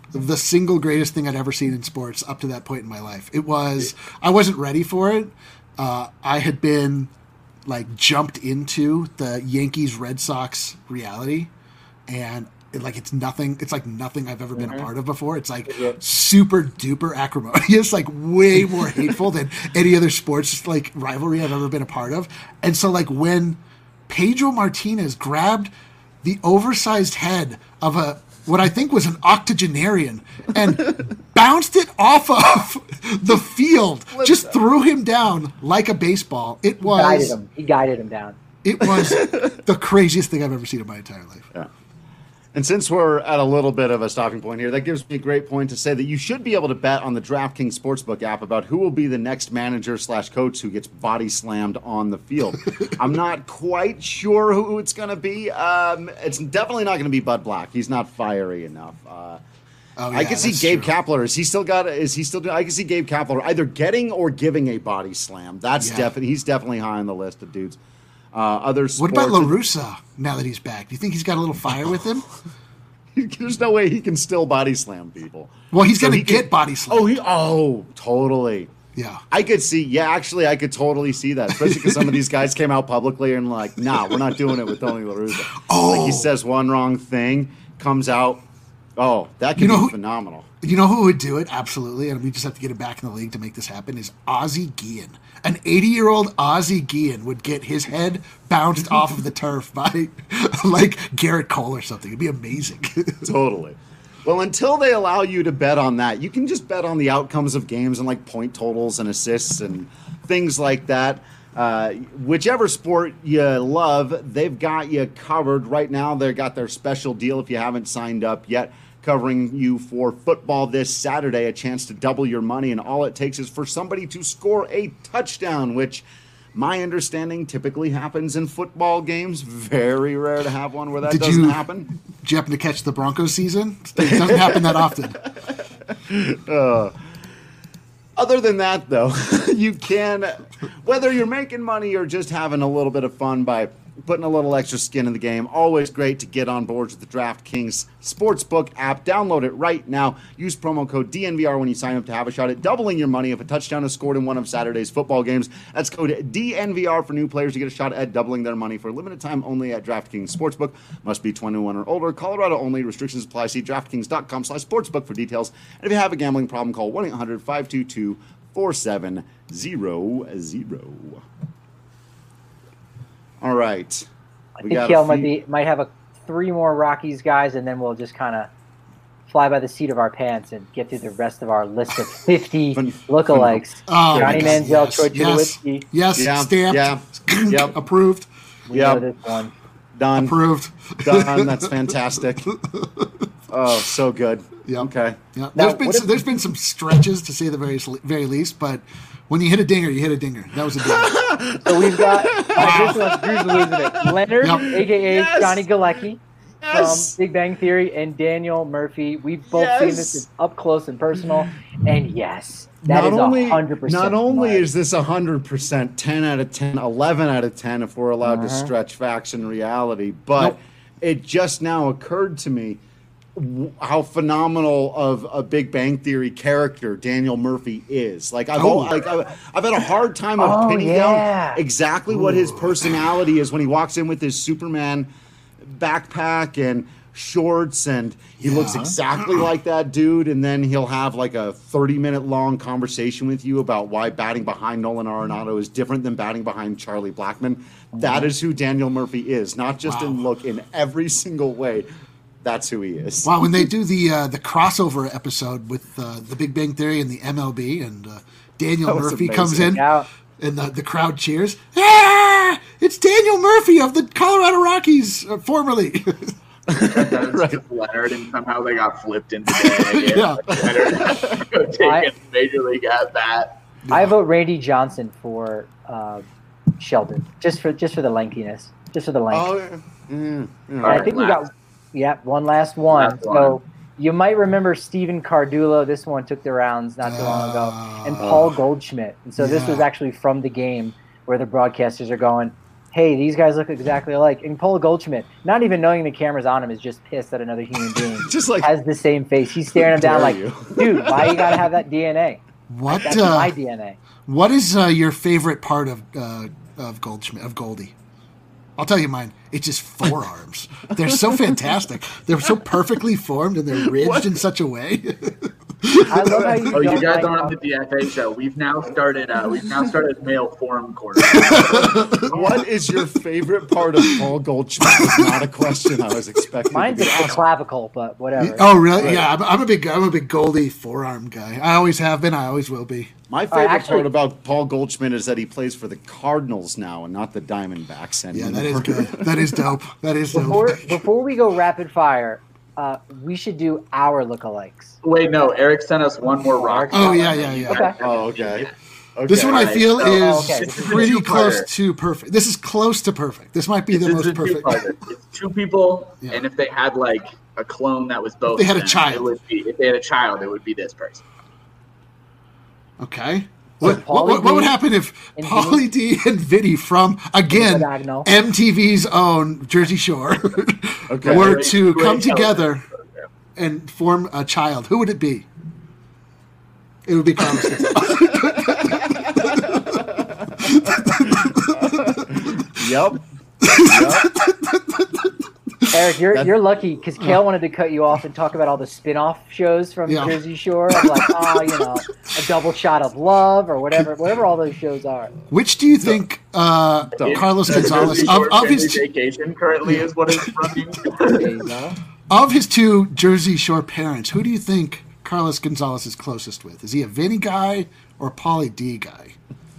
the single greatest thing I'd ever seen in sports up to that point in my life. It was, I wasn't ready for it. Uh, I had been like jumped into the Yankees Red Sox reality, and it, like it's nothing. It's like nothing I've ever been Mm-hmm. a part of before. It's like Yeah. super duper acrimonious, like way more hateful than any other sports like rivalry I've ever been a part of. And so like when Pedro Martinez grabbed the oversized head of a what I think was an octogenarian and bounced it off of the field, just threw him down like a baseball. It was Guided him. He guided him down. it was the craziest thing I've ever seen in my entire life. Yeah. And since we're at a little bit of a stopping point here, that gives me a great point to say that you should be able to bet on the DraftKings Sportsbook app about who will be the next manager slash coach who gets body slammed on the field. I'm not quite sure who it's going to be. Um, it's definitely not going to be Bud Black. He's not fiery enough. Uh, Oh, I yeah, can see that's Gabe true. Kapler. Is he still got? Is he still doing? I can see Gabe Kapler either getting or giving a body slam. That's Yeah. definitely. He's definitely high on the list of dudes. Uh, other What sports, about La Russa now that he's back? Do you think he's got a little fire with him? There's no way he can still body slam people. Well, he's So going to he can- get body slammed. Oh, he. Oh, totally. Yeah. I could see. Yeah, actually, I could totally see that, especially because some of these guys came out publicly and like, nah, we're not doing it with Tony La Russa. Oh. Like he says one wrong thing, comes out. Oh, that could You know be who- phenomenal. You know who would do it? Absolutely. And we just have to get him back in the league to make this happen is Ozzie Guillen. An eighty-year-old Ozzie Guillen would get his head bounced off of the turf by like Garrett Cole or something. It'd be amazing. Totally. Well, until they allow you to bet on that, you can just bet on the outcomes of games and like point totals and assists and things like that. Uh, whichever sport you love, they've got you covered. Right now, they've got their special deal if you haven't signed up yet, covering you for football this Saturday, a chance to double your money, and all it takes is for somebody to score a touchdown, which my understanding typically happens in football games. Very rare to have one where that Did doesn't you- happen. Did you happen to catch the Broncos season? It doesn't happen that often. Other than that, though, you can, whether you're making money or just having a little bit of fun by putting a little extra skin in the game, always great to get on board with the DraftKings Sportsbook app. Download it right now. Use promo code D N V R when you sign up to have a shot at doubling your money if a touchdown is scored in one of Saturday's football games. That's code D N V R for new players to get a shot at doubling their money for a limited time only at DraftKings Sportsbook. Must be twenty-one or older. Colorado only. Restrictions apply. See DraftKings.com slash sportsbook for details. And if you have a gambling problem, call one eight hundred five two two four seven zero zero. All right. I We think got a Kale might few- be might have a three more Rockies guys, and then we'll just kind of fly by the seat of our pants and get through the rest of our list of fifty Phen- lookalikes. Oh, Johnny my God, Manziel, yes, Troy yes, Tulowitzki. yes, Yeah, stamped, yeah, yep. approved, We Yep. know this one. Done. approved. Done. That's fantastic. Oh, so good. Yep. Okay. Yeah, Now, there's been what some, if- there's been some stretches to say the very very least, but when you hit a dinger, you hit a dinger. That was a dinger. So we've got uh, this one's Drew's losing it. Leonard, Yep. aka Yes. Johnny Galecki Yes. from Big Bang Theory, and Daniel Murphy. We've both seen Yes. this up close and personal, and yes, that not is only, a hundred percent. not only mine. is this one hundred percent ten out of ten, eleven out of ten if we're allowed to Uh-huh. stretch facts and reality, but Nope. it just now occurred to me w- how phenomenal of a Big Bang Theory character Daniel Murphy is. Like I've Oh. al- like I've, I've had a hard time of Oh, pinning yeah. down exactly what his personality is when he walks in with his Superman backpack and shorts, and he looks Yeah. exactly like that dude, and then he'll have like a thirty minute long conversation with you about why batting behind Nolan Arenado is different than batting behind Charlie Blackmon. That is who Daniel Murphy is, not just in Wow. look, in every single way. That's who he is. Wow, when they do the uh, the crossover episode with uh, the Big Bang Theory and the M L B, and uh, Daniel That was Murphy comes amazing. in, Yeah. and the, the crowd cheers. Ah! It's Daniel Murphy of the Colorado Rockies, uh, formerly. That is Right. just Leonard, and somehow they got flipped into day. Yeah. Leonard taking I- major league at bat. I vote Randy Johnson for uh, Sheldon, just for just for the lengthiness, just for the length. Oh, yeah. Mm, yeah. And I think we got, yeah, one last one. Last So one. you might remember Stephen Cardulo. This one took the rounds not too long ago, and Paul Goldschmidt. And so this Yeah. was actually from the game where the broadcasters are going, hey, these guys look exactly alike. And Paul Goldschmidt, not even knowing the camera's on him, is just pissed that another human being Just like, has the same face. He's staring him down dare like, you. dude, why you gotta have that D N A? What That's uh, my D N A. what is uh, your favorite part of uh, of Goldschmidt of Goldie? I'll tell you mine. It's just forearms. They're so fantastic. They're so perfectly formed and they're ridged What? in such a way. I love how you Oh, you don't guys like aren't how- on the D F A show. We've now started. Uh, we've now started male form corner. what is your favorite part of Paul Goldschmidt? Was not a question I was expecting. Mine's to the be asked. clavicle, but whatever. Oh, really? Right. Yeah, I'm, I'm a big I'm a big Goldie forearm guy. I always have been. I always will be. My favorite actually- part about Paul Goldschmidt is that he plays for the Cardinals now and not the Diamondbacks Yeah, anymore. that is good. That is dope. That is dope. Before before we go rapid fire, uh, we should do our lookalikes. Wait, no. Eric sent us one more rock. Oh, yeah, yeah, yeah. Okay. Oh, okay. okay. This one I Alright, feel so- is Oh, okay. This is a pretty two-parter. close to perfect. This is close to perfect. This might be the This most is a perfect. two-parter. It's two people, Yeah. and if they had like a clone that was both, they had a of them, child. It would be, if they had a child, it would be this person. Okay. What, Pauly what, what, what would D happen if and Pauly D and Vinny from, again, Diagonal. M T V's own Jersey Shore Okay. were Wait, to wait, come wait, together and form a child? Who would it be? It would be Carlos Gonzalez. Yep. Eric, you're That- you're lucky because Kale wanted to cut you off and talk about all the spin-off shows from Yeah. Jersey Shore. I'm like, oh, you know, a double shot of love or whatever, whatever all those shows are. Which do you think uh, Carlos Gonzalez, of, Short of family his vacation currently is what is running. There you go. of his two Jersey Shore parents, who do you think Carlos Gonzalez is closest with? Is he a Vinny guy or a Pauly D guy?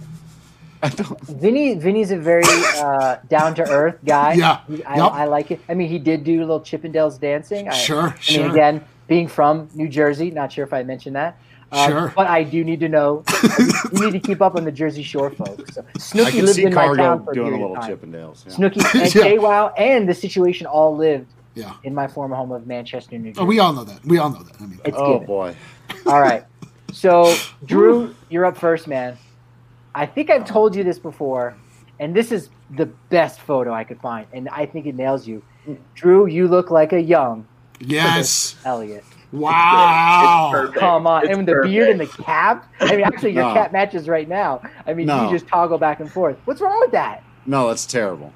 Vinny, Vinny's a very uh, down to earth guy. Yeah. He- I, Yup. I like it. I mean, he did do a little Chippendales dancing. I, Sure, I mean, sure. again, being from New Jersey, not sure if I mentioned that. Uh, Sure. But I do need to know. You need to keep up on the Jersey Shore folks. So, I Snooki can lived see in my town Cargo for a doing a period little of time. Chippendales. Yeah. Snooki and Yeah. KWOW and the situation all lived Yeah. in my former home of Manchester, New Jersey. Oh, we all know that. We all know that. I mean, It's Oh given. boy. All right. So, Drew, you're up first, man. I think I've told you this before, and this is the best photo I could find, and I think it nails you. Drew, you look like a young yes. Elliot. Wow. It's perfect. Come on. It's and the beard and the perfect. cap. I mean, actually, your No. cap matches right now. I mean, No. you just toggle back and forth. What's wrong with that? No, that's terrible.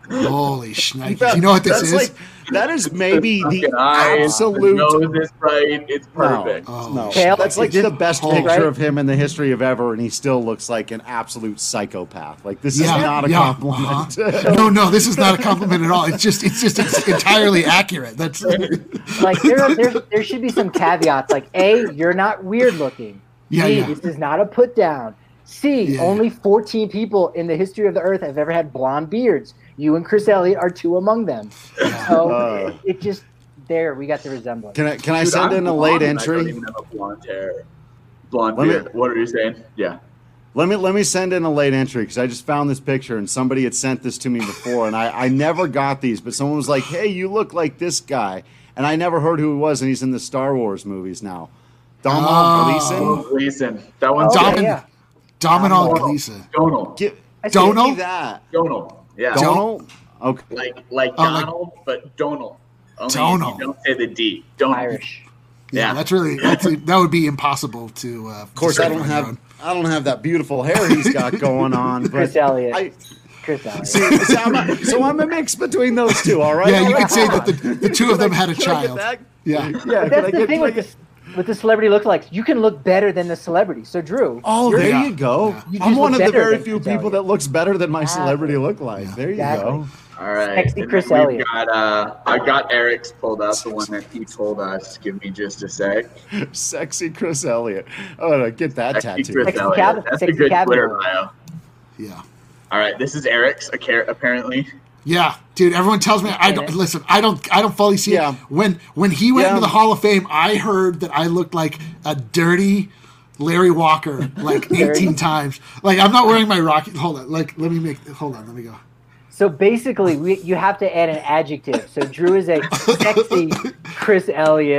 Holy shnikes. You know what this That's is? like that is maybe the Fucking eyes, absolute. The nose is right. It's No, perfect. Oh, no. Kale, That's like is this the best whole- picture right? of him in the history of ever, and he still looks like an absolute psychopath. Like this Yeah, is not a yeah, compliment. uh-huh. No, no, this is not a compliment at all. It's just, it's just, it's entirely accurate. That's Like, there, there, there should be some caveats. Like, A, you're not weird looking. Yeah, B, yeah. this is not a put down. C, Yeah. only fourteen people in the history of the earth have ever had blonde beards. You and Chris Elliott are two among them. So Uh. it, it just, there, we got the resemblance. Can I can I Dude, send I'm in a blonde late and I don't entry? even have a blonde hair. Blonde Let me- beard. What are you saying? Yeah. Let me let me send in a late entry because I just found this picture and somebody had sent this to me before and I, I never got these, but someone was like, "Hey, you look like this guy," and I never heard who he was, and he's in the Star Wars movies now. Donald Oh. Gleason. Gleason. That one's Oh, Domin- yeah. Dominal Donald. Gleason. Donald. Give, I see give Donald? me that. Donald. Yeah. Don- Donald. Okay. Like like Oh, like- Donald, but Donald. Only Donald. You don't say the D. Donald. Irish. Yeah, Yeah. that's really, that's, that would be impossible to. Uh, Of course, I don't have I don't have that beautiful hair he's got going on. But Chris Elliott. I, Chris Elliott. see, so, I'm a, so I'm a mix between those two. All right. Yeah, All you right, could say hold that the, on. the two of them had a Can I get child. that? Yeah. Yeah. But can I that's the get- thing can I with get- this, with the celebrity lookalikes. You can look better than the celebrity. So, Drew. Oh, you're- there Yeah. you go. Yeah. You I'm just one look of the better very than few Chris people Elliott. that looks better than my Exactly. celebrity look like. There you Exactly. go. All right. Sexy And Chris then we've Elliott. Got, uh, I got Eric's pulled up, the one that he told us. Give me just a sec. Sexy Chris Elliott. Oh, no, get that Sexy tattoo. Chris Sexy Elliott. cabin- That's a sexy good cabin Twitter boy. bio. Yeah. All right. This is Eric's, a- apparently. Yeah, dude. Everyone tells me I don't listen. I don't. I don't fully see Yeah. it. When when he went Yeah. into the Hall of Fame, I heard that I looked like a dirty Larry Walker like eighteen times. Like I'm not wearing my Rocky. Hold on. Like let me make. Hold on. Let me go. So basically, we, you have to add an adjective. So Drew is a sexy Chris Elliott.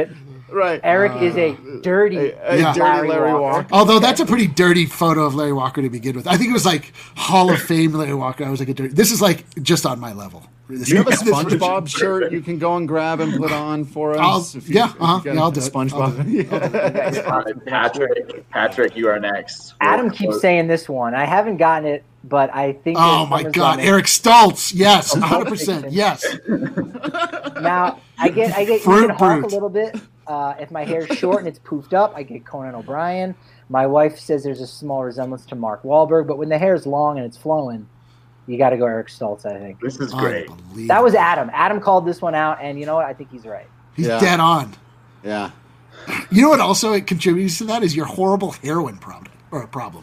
Right. Eric is a dirty, A, a Yeah. dirty Larry Larry Walker. Walker. Although that's a pretty dirty photo of Larry Walker to begin with. I think it was like Hall of Fame Larry Walker. I was like a dirty. This is like just on my level. This Do you have a this version. SpongeBob shirt you can go and grab and put on for us? I'll- If you- yeah, if you uh-huh, got yeah, I'll a do it. SpongeBob. I'll do Yeah. All right, Patrick, Patrick, you are next. Adam keeps saying this one. I haven't gotten it, but I think. Oh there's my someone's God, on it. Eric Stoltz. Yes, Oh, one hundred percent. Stoltz. Yes. Now I get I get Fruit Ethan Hawke a Brute. little bit. Uh, if my hair's short and it's poofed up, I get Conan O'Brien. My wife says there's a small resemblance to Mark Wahlberg, but when the hair's long and it's flowing, you got to go Eric Stoltz. I think This is great. Unbelievable. that was Adam. Adam called this one out, and you know what? I think he's right. He's Yeah. dead on. Yeah. You know what also it contributes to that is your horrible heroin problem or problem.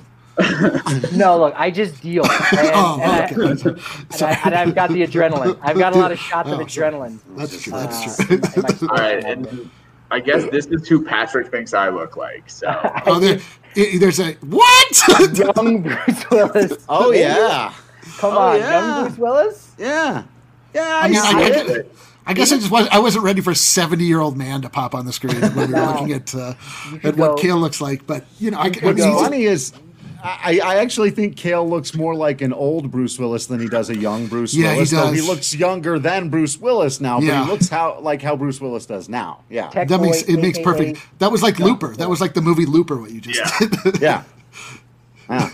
No, look, I just deal, and, Oh, and, I, okay. and, I, and I've got the adrenaline. I've got a lot of shots of Oh, sorry. adrenaline. That's true. Uh, That's true. in my- in my All right, story. and I guess this is who Patrick thinks I look like. So Oh, there, i- there's a what? Young Bruce Willis. Oh yeah. Come Oh, on, yeah. young Bruce Willis. Yeah. Yeah. I, I mean, see I, it. I, I guess I just was, I wasn't ready for a seventy-year-old man to pop on the screen when we were No. looking at uh, You at could what go- Kale looks like. But you know, I, I mean, What's he's- funny is, I, I actually think Kale looks more like an old Bruce Willis than he does a young Bruce Yeah, he Willis. Though he does. looks younger than Bruce Willis now, but Yeah. he looks how like how Bruce Willis does now. Yeah. Tech that makes Boy, it makes A K A perfect. That was like Looper. That was like the movie Looper. What you just Yeah. did. Yeah. Yeah.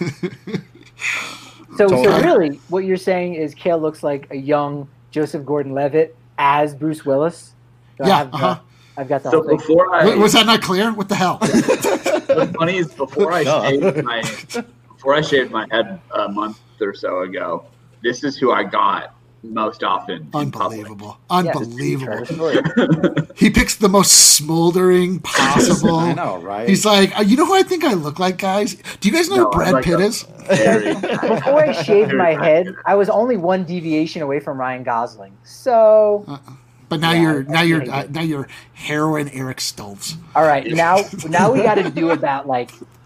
So, so Totally. really, what you're saying is Kale looks like a young Joseph Gordon-Levitt as Bruce Willis. So Yeah, I've, got, uh-huh. I've got the so whole thing. before I Wa- was that not clear? What the hell? what's funny is before I Duh. shaved my before I shaved my head a month or so ago, this is who I got most often. in public. Unbelievable. Yeah, Unbelievable. just story. He picks the most smoldering possible. I know, right? He's like, uh, you know who I think I look like, guys? Do you guys know No, who I Brad like Pitt a- is? Very- Before I shaved my head, I was only one deviation away from Ryan Gosling. So, But now Yeah, you're I- now I you're hate uh, it. now you're heroin Eric Stoltz. all right, now now we got to do about like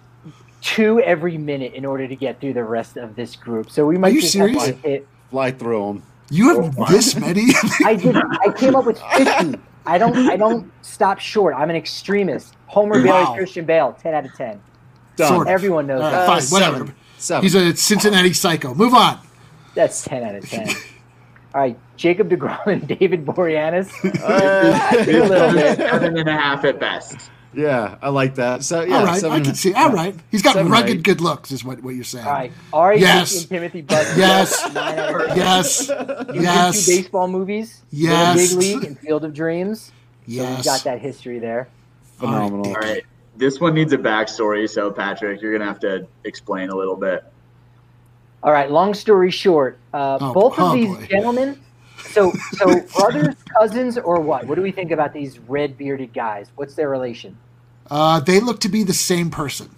two every minute in order to get through the rest of this group. So we might you just serious? have to hit. Fly through him. You Oh have my. this many? I did. I came up with fifty. I don't. I don't stop short. I'm an extremist. Homer Bailey, Wow. Christian Bale, ten out of ten. Done. Sort of. Everyone knows All that. right, Uh, fine, seven. whatever. Seven. He's a Cincinnati psycho. Move on. That's ten out of ten. All right, Jacob DeGrom and David Boreanaz. Uh, A little bit. seven and a half at best. yeah, I like that. So yeah, All right, seven I and can a- see. All right, he's got Seven, rugged eight. good looks, is what, what you're saying. All right, Ari Yes. Goldman, Timothy Buzzard. Yes. Nine out of ten. Yes, He's yes, in two baseball movies. Yes. The Big League and Field of Dreams. So yes. we've got that history there. Phenomenal. All right. This one needs a backstory, so Patrick, you're gonna have to explain a little bit. All right. Long story short, uh, Oh, both oh, of these boy. gentlemen. So, so brothers, cousins, or what? What do we think about these red bearded guys? What's their relation? Uh, they look to be the same person.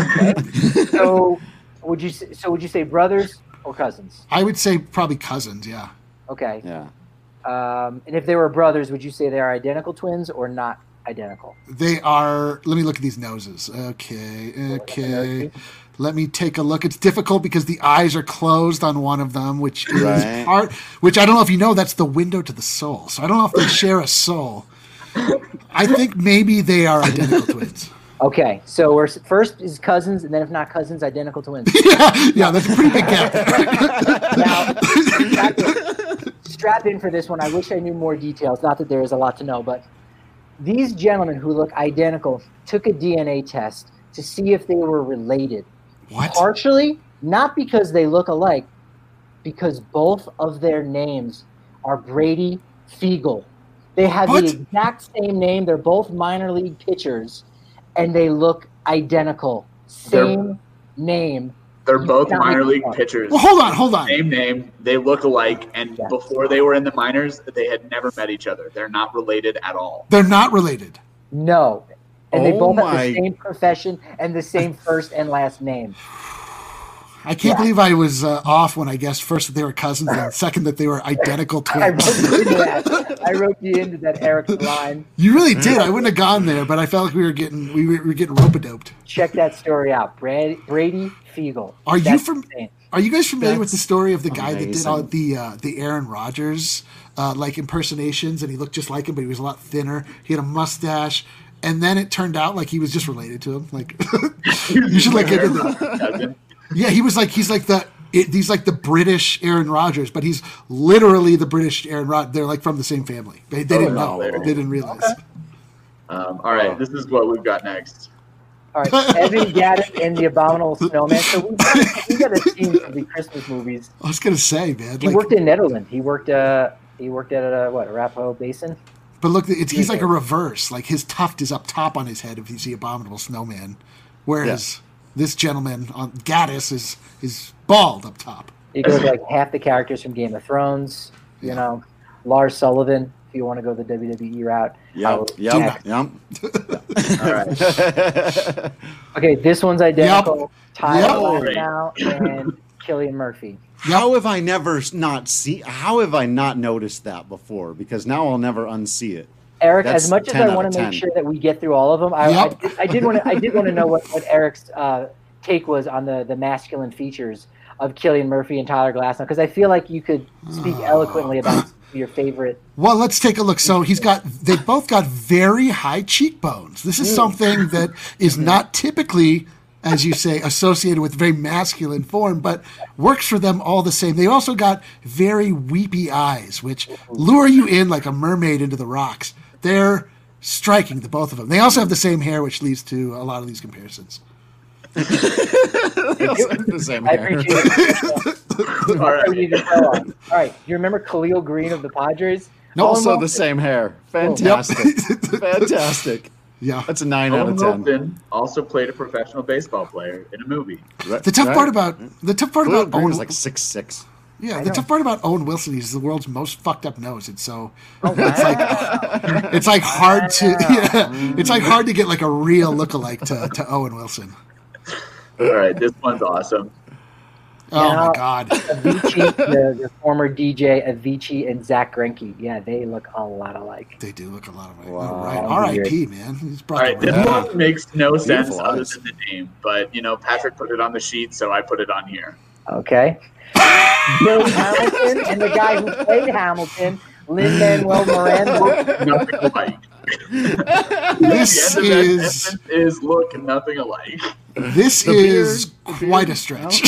So, would you s- so would you say brothers or cousins? I would say probably cousins. Yeah. Okay. Yeah. Um, and if they were brothers, would you say they are identical twins or not identical? They are. Let me look at these noses. Okay. Okay. Let me take a look. It's difficult because the eyes are closed on one of them, which is Right. part. Which I don't know if you know. That's the window to the soul. So I don't know if they share a soul. I think maybe they are identical twins. Okay. So we're s- first is cousins, and then if not cousins, identical twins. yeah, yeah, that's a pretty big gap there. Now, strap in, strap in for this one. I wish I knew more details. Not that there is a lot to know, but these gentlemen who look identical took a D N A test to see if they were related. What? Partially, not because they look alike, because both of their names are Brady Fiegel. They have What? the exact same name. They're both minor league pitchers, and they look identical. Same name. They're You both cannot minor make league it up. pitchers. Well, hold on, hold on. Same name. They look alike, and Yeah. before they were in the minors, they had never met each other. They're not related at all. They're not related. No. And they Oh both have my- the same profession and the same first and last name. I can't Yeah. believe I was uh, off when I guessed first that they were cousins and second that they were identical I wrote twins. you into that. I wrote you into that Eric's line. You really did. I wouldn't have gone there, but I felt like we were getting we were, we were getting rope-a-doped. Check that story out. Brad, Brady Fiegel. Are you That's from- insane. Are you guys familiar with That's the story of the guy that did amazing. all the uh, the Aaron Rodgers uh, like impersonations, and he looked just like him, but he was a lot thinner. He had a mustache, and then it turned out like he was just related to him. Like you should look into that. Yeah, he was like he's like the it, he's like the British Aaron Rodgers, but he's literally the British Aaron Rod. They're like from the same family. They, they didn't no, know. They didn't realize. Okay. Um, all right, this is what we've got next. All right, Evan Gaddis and the Abominable Snowman. So we got, we got a team from the Christmas movies. I was gonna say, man. He like, worked in Netherlands. He worked. Uh, he worked at uh, what Arapahoe Basin. But look, it's, he's like a reverse. Like his tuft is up top on his head if he's the Abominable Snowman, whereas Yeah. this gentleman on Gaddis is is bald up top. He goes like half the characters from Game of Thrones. You Yeah. know, Lars Sullivan. If you want to go the W W E route. Yep, yep, Jack- yep. All right. Okay, this one's identical. Tyler Yep. now and Cillian Murphy. How have I never s- not see? How have I not noticed that before? Because now I'll never unsee it. Eric, That's as much as ten I out want of to make ten. sure that we get through all of them, I, Yep. I, I did want to. I did want to know what, what Eric's uh, take was on the, the masculine features of Cillian Murphy and Tyler Glasnow, because I feel like you could speak eloquently about your favorite. Well, let's take a look. So he's got, they both got very high cheekbones. This is something that is not typically, as you say, associated with very masculine form, but works for them all the same. They also got very weepy eyes, which lure you in like a mermaid into the rocks. They're striking, the both of them. They also have the same hair, which leads to a lot of these comparisons. The same I hair. appreciate it. All right. All right, you remember Khalil Green of the Padres? Also Almost- the same hair. Fantastic. Fantastic. Yeah. That's a nine out Owen of ten. Wilson also played a professional baseball player in a movie. Right- The tough right? part about the tough part Khalil about Green Owen, was like six six. yeah, I the know. tough part about Owen Wilson is the world's most fucked up nose, and so Oh, it's like wow. it's like hard to yeah, it's like hard to get like a real lookalike to, to Owen Wilson. All right, this one's awesome. Oh Now- my god. Avicii, the, the former D J Avicii and Zach Greinke. Yeah, they look a lot alike. They do look a lot of Wow. right. R I P man. He's All brought right, the this red. one makes no sense Beautiful other eyes. than the name, but you know, Patrick put it on the sheet, so I put it on here. Okay. Billy Hamilton and the guy who played Hamilton, Lin-Manuel Miranda. Nothing alike. This the end of that is sentence is look nothing alike. this The is beard- quite a stretch.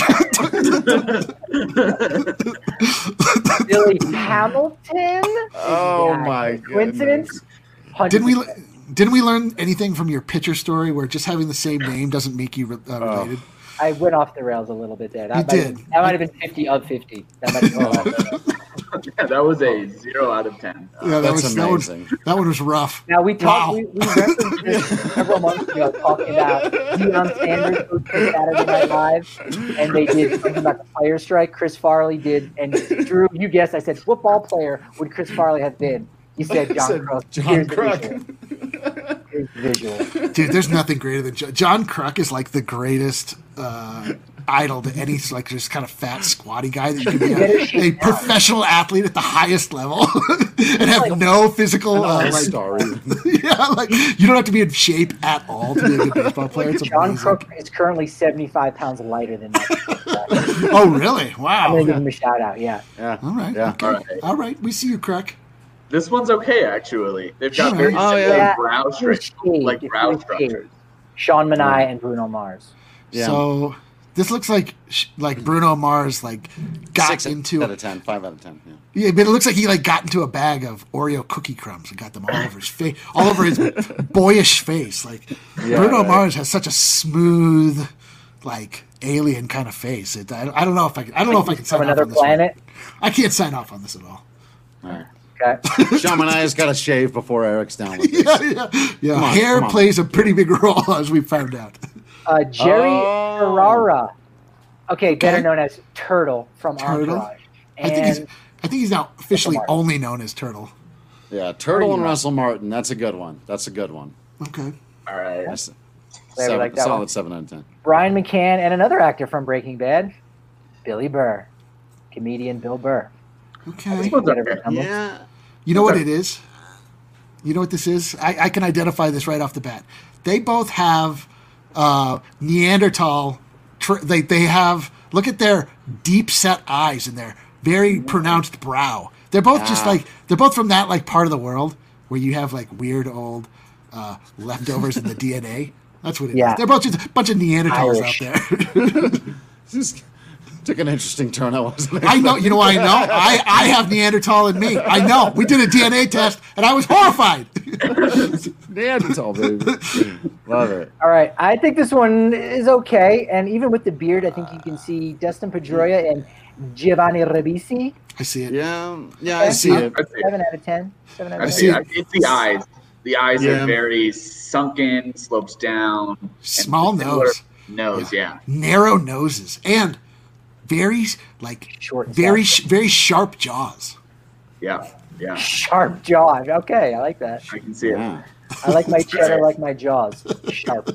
Billy Hamilton? Oh Yeah. my Coincidence? Didn't we one hundred percent. didn't we learn anything from your pitcher story where just having the same name doesn't make you re- uh, related? I went off the rails a little bit there. That You might did. Have, that might have been fifty of fifty. That might have been off the rails. Yeah, that was a zero out of ten. Yeah, that That's was that one, amazing. that one was rough. Now we talked. Wow. We, we referenced this several months ago, talking about Deion Sanders hosted Saturday Night Live, and they did something about the player strike. Chris Farley did, and Drew, you guessed. I said, football player would Chris Farley have been? You said John Said Kruk. John Here's the Kruk. visual. Here's the visual. Dude, there's nothing greater than John, John Kruk is like the greatest uh, idol to any like just kind of fat squatty guy that you can be a, a professional athlete at the highest level and have no physical uh, Nice like story. yeah, like you don't have to be in shape at all to be a good baseball player. It's John amazing. Crook is currently seventy-five pounds lighter than that. Oh, really? I'm Wow. going to give him a shout out. Yeah. Yeah. All right. Yeah. Okay. All right. All right. We see you, Kruk. This one's okay, actually. They've got very Oh, similar yeah. brow If you were structures, shade, like if you brow were shade. structures. Sean Manai and Bruno Mars. Yeah. So this looks like sh- like Bruno Mars like got Six into out of ten. Five out of ten. Yeah. yeah, but it looks like he like got into a bag of Oreo cookie crumbs and got them all over his face, all over his boyish face. Like Bruno right. Mars has such a smooth, like alien kind of face. It, I, I don't know if I can. I don't know if I can sign From off another on this one. planet. I can't sign off on this at all. All right. Okay. Shaman has got to shave before Eric's down with this. Yeah, yeah, yeah. Come on, Hair come on. plays a pretty big role, as we found out. Uh, Jerry Oh. Ferrara. Okay, better Okay. known as Turtle from Turtle? Entourage. I think he's. And I think he's now officially Martin. only known as Turtle. Yeah, Turtle and Martin. Russell Martin. That's a good one. That's a good one. Okay. All right. That's Glad we like seven, that solid one. seven out of ten. Brian McCann and another actor from Breaking Bad, Billy Burr. Comedian Bill Burr. Okay. This one's Better okay. resemblance. Yeah. You know what it is? You know what this is? I, I can identify this right off the bat. They both have uh, Neanderthal. Tr- they they have look at their deep set eyes and their very pronounced brow. They're both just Ah. like they're both from that like part of the world where you have like weird old uh, leftovers in the D N A. That's what it Yeah. is. They're both just a bunch of Neanderthals Irish. out there. This took an interesting turn. I wasn't. I know. You know what I know? I, I have Neanderthal in me. I know. We did a D N A test, and I was horrified. Neanderthal, baby. Love it. All right, I think this one is okay, and even with the beard, I think you can see Dustin Pedroia and Giovanni Ribisi. I see it. Yeah, yeah, I see it. I see it. Seven out of ten. Seven out I of see. ten. see It's the eyes. The eyes Yeah. are very sunken, slopes down. and Small similar nose. Nose, yeah. Narrow noses and very like Short and very stout. sh- very sharp jaws. Yeah, yeah. Sharp jaws. Okay, I like that. I can see it. Yeah. I like my cheddar, like my jaws. Sharp.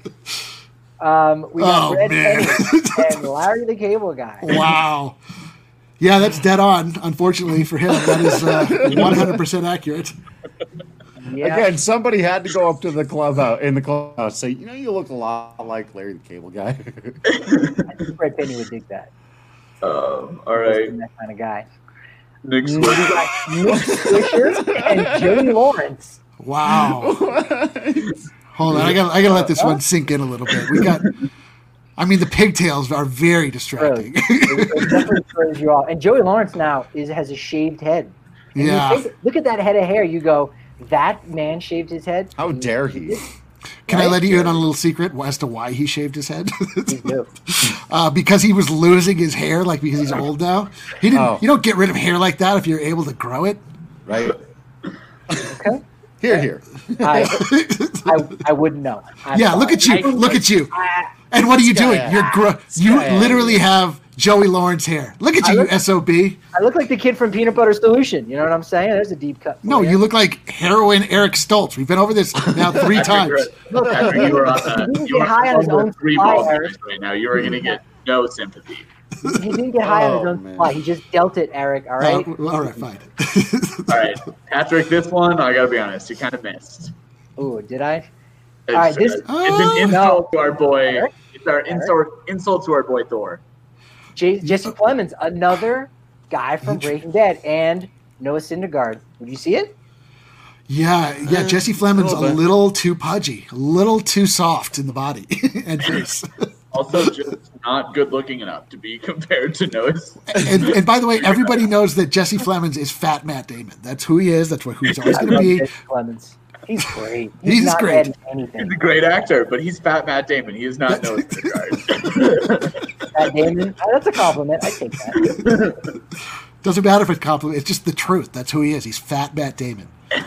Um, we got Oh, Red man. Penny and Larry the Cable Guy. Wow. Yeah, that's dead on. Unfortunately for him, that is uh, one hundred percent accurate. Yeah. Again, somebody had to go up to the clubhouse in the clubhouse and say, you know, you look a lot like Larry the Cable Guy. I think Red Penny would dig that. Um, all right. That kind of guy. Nick We Swisher. got Nick Swisher and Jody Lawrence. Wow. Hold on, I got I got to let this one sink in a little bit. We got. I mean, the pigtails are very distracting. It, it definitely throws you off. And Joey Lawrence now is has a shaved head. And you Yeah. think- look at that head of hair. You go, that man shaved his head. How dare he? Can I let you in on a little secret as to why he shaved his head? He's new. uh, because he was losing his hair, like because he's old now. He didn't. Oh. You don't get rid of hair like that if you're able to grow it. Right? Okay. Here, here. I, I, I wouldn't know. I'm Yeah, look sorry. at you. Look at you. I, And what are you This guy- doing? You're gro- you guy- literally have Joey Lawrence hair. Look at I you, you look- S O B. I look like the kid from Peanut Butter Solution. You know what I'm saying? There's a deep cut. for No, you look like heroin Eric Stoltz. We've been over this now three times. Patrick, you were on He the, didn't you get were high on his over own three supply, balls Eric. right now. You are going to get no sympathy. He didn't get high on his Oh, own man. supply. He just dealt it, Eric. All right. Uh, all right, fine. All right, Patrick, this one, I got to be honest, you kind of missed. Ooh, did I? It's, right, this- it's an insult No. to our boy. Eric? It's our insult, insult to our boy Thor. J- Jesse Plemons, another guy from Breaking Bad, and Noah Syndergaard. Would you see it? Yeah, yeah. Jesse Fleming's a little bit. little too pudgy, a little too soft in the body and face. Also, just not good looking enough to be compared to Noah. and, and by the way, everybody knows that Jesse Flemings is Fat Matt Damon. That's who he is. That's what who he's always I going to love be. Jesse Plemons. He's great. He's not great. bad in He's anything. a great actor, but he's fat Matt Damon. He is not Noah Syndergaard. Matt Damon. Oh, that's a compliment. I take that. Doesn't matter if it's compliment. It's just the truth. That's who he is. He's Fat Matt Damon.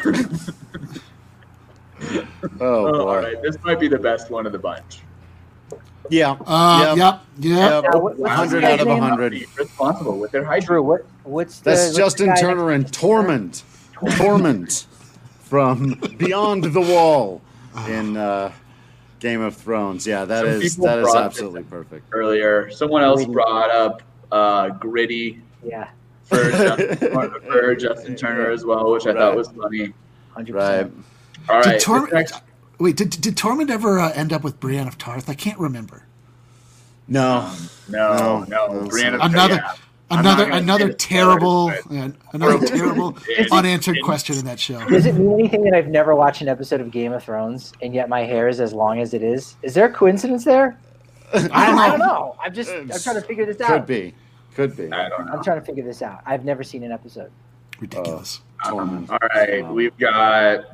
Oh, Oh, all boy. right, this might be the best one of the bunch. Yeah. Uh, yep, yep. Now, what- what's one this hundred guy's out of name? one hundred. Responsible with their hydrate. Drew, what, what's the? That's what's Justin the guy Turner and next- Torment. Torment from Beyond the Wall in uh, Game of Thrones. Yeah, that Some is people that is brought this absolutely perfect. Earlier, someone else Gritty. brought up uh, Gritty Yeah, for Justin, for Justin Turner as well, which I thought Right. was funny. hundred Right. percent. All right, Did this Torment? next- Wait, did did Torment ever uh, end up with Brienne of Tarth? I can't remember. No. no, No, no, no, Brianna, Another, yeah. I'm not another, gonna another say the terrible, spoilers, but- yeah, another terrible It's- unanswered it's- question in that show. Does it mean anything that I've never watched an episode of Game of Thrones and yet my hair is as long as it is? Is there a coincidence there? I don't I don't know. know. I'm just I'm trying to figure this out. Could be. Could be. I don't know. I'm trying to figure this out. I've never seen an episode. Ridiculous. Torment. All right, we've got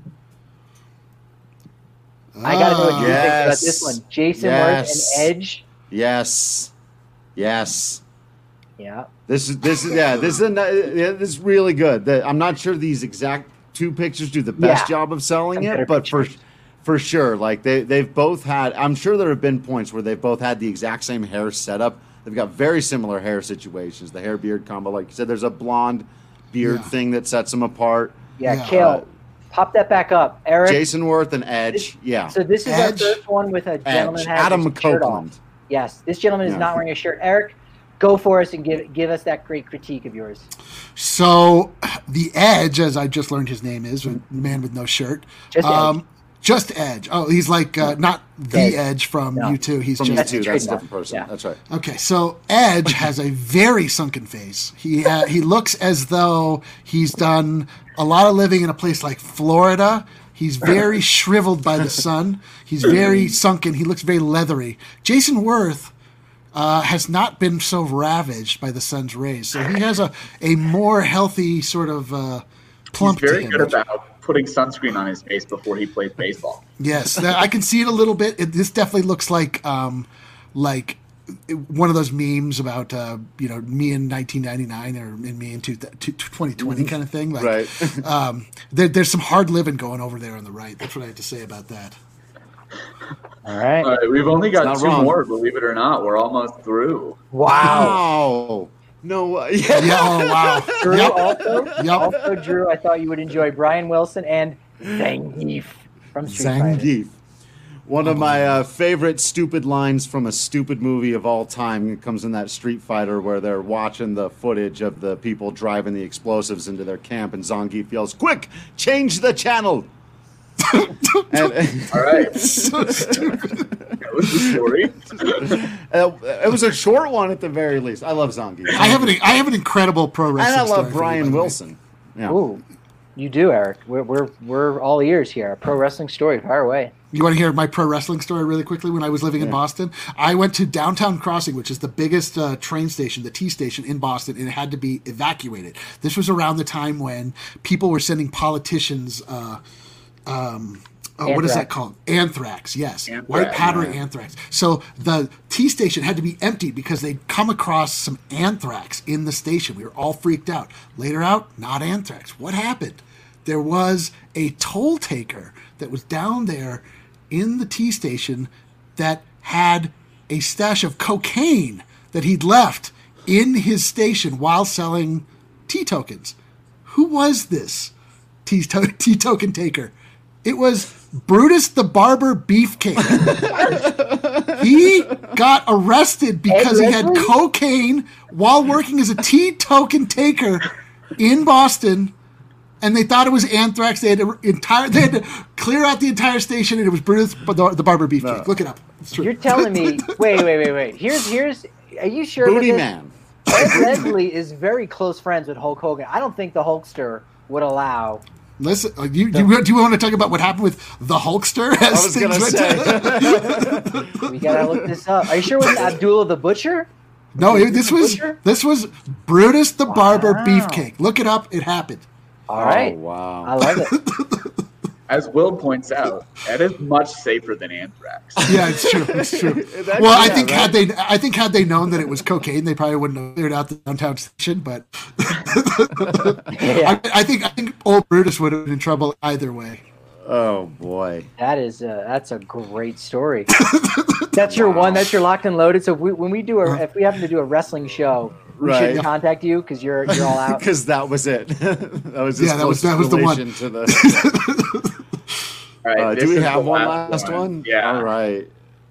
I gotta know what you think about Yes. this one. Jason Yes. Worth and Edge. Yes. Yes. Yeah. This is this is yeah. This is a, ni- yeah, this is really good. The, I'm not sure these exact two pictures do the best Yeah. job of selling Some better it, but for pictures. for sure, like they they've both had. I'm sure there have been points where they've both had the exact same hair setup. They've got very similar hair situations. The hair beard combo, like you said, there's a blonde beard Yeah. thing that sets them apart. Yeah, Yeah. Kale. Pop that back up. Eric. Jason Worth and Edge, This- yeah, So this is Edge. our first one with a gentleman Edge, has Adam his shirt off. Copeland. Yes, this gentleman is Yeah. not wearing a shirt. Eric, go for us and give give us that great critique of yours. So, the Edge, as I just learned his name is, the man with no shirt. Just um, Edge. Just Edge. Oh, he's like uh, not the Edge. Edge from No. U two. He's From you just two, That's a that's a trademark. different person. Yeah. That's right. Okay, so Edge has a very sunken face. He uh, he looks as though he's done a lot of living in a place like Florida, He's very shriveled by the sun. He's very sunken. He looks very leathery. Jason Worth uh, has not been so ravaged by the sun's rays, so he has a, a more healthy sort of uh, plump He's very to him. good about putting sunscreen on his face before he plays baseball. Yes, that- I can see it a little bit. It, this definitely looks like um, like one of those memes about uh, you know me in nineteen ninety-nine or in me in two, two, twenty twenty kind of thing. Like, Right. um, there, there's some hard living going over there on the right. That's what I have to say about that. All right. All right, we've only got not two wrong. more, believe it or not. We're almost through. Wow. Wow. No. Uh, yeah. Yeah. Oh wow. Drew, Yep. also, Yep. also, Drew, I thought you would enjoy Brian Wilson and Zangief from Street Fighter. Zangief. One of my uh, favorite stupid lines from a stupid movie of all time. It comes in that Street Fighter where they're watching the footage of the people driving the explosives into their camp, and Zangief yells, "Quick, change the channel!" and, All right. So stupid. That was the story. uh, it was a short one at the very least. I love Zangief. I have an I have an incredible pro and wrestling I story love for you, by Brian the way. Wilson. Yeah. Ooh, you do, Eric. We're we're we're all ears here. A pro wrestling story. Fire away. You want to hear my pro wrestling story really quickly? When I was living in Boston, I went to Downtown Crossing, which is the biggest uh, train station, the T station in Boston, and it had to be evacuated. This was around the time when people were sending politicians. Uh, um, oh, what is that Anthrax. called? Anthrax. Yes, Anthrax, white powder yeah. anthrax. So the T station had to be emptied because they'd come across some anthrax in the station. We were all freaked out. Later out, not anthrax. What happened? There was a toll taker that was down there in the T station that had a stash of cocaine that he'd left in his station while selling T tokens. Who was this T T token taker? It was Brutus the Barber Beefcake. He got arrested because he had Leslie? cocaine while working as a T token taker in Boston. And they thought it was anthrax. They had to entire. They had to clear out the entire station, and it was Brutus the, the Barber Beefcake. No. Look it up. It's true. You're telling me? Wait, wait, wait, wait. Here's here's. Are you sure? about Booty this? Man. Ed Leslie is very close friends with Hulk Hogan. I don't think the Hulkster would allow. Listen, uh, you, you, do you want to talk about what happened with the Hulkster? I was gonna say. We gotta look this up. Are you sure it was Abdullah the Butcher? No, it, this was Butcher? this was Brutus the Barber Wow. Beefcake. Look it up. It happened. All right. Oh, wow. I love it. As Will points out, that is much safer than anthrax. Yeah, it's true. It's true. That- Well, I yeah, think right? had they, I think had they known that it was cocaine, they probably wouldn't have cleared out the downtown station. But Yeah, I, I think I think old Brutus would have been in trouble either way. Oh boy. that is a, that's a great story. That's your one. That's your locked and loaded. So if we, when we do a, if we happen to do a wrestling show, we Right. should contact you because you're you're all out. Because that was it. that was his Yeah, that was- closest that was the one. relation to the. All right, Uh, this do we is have the one last one? Yeah. All right.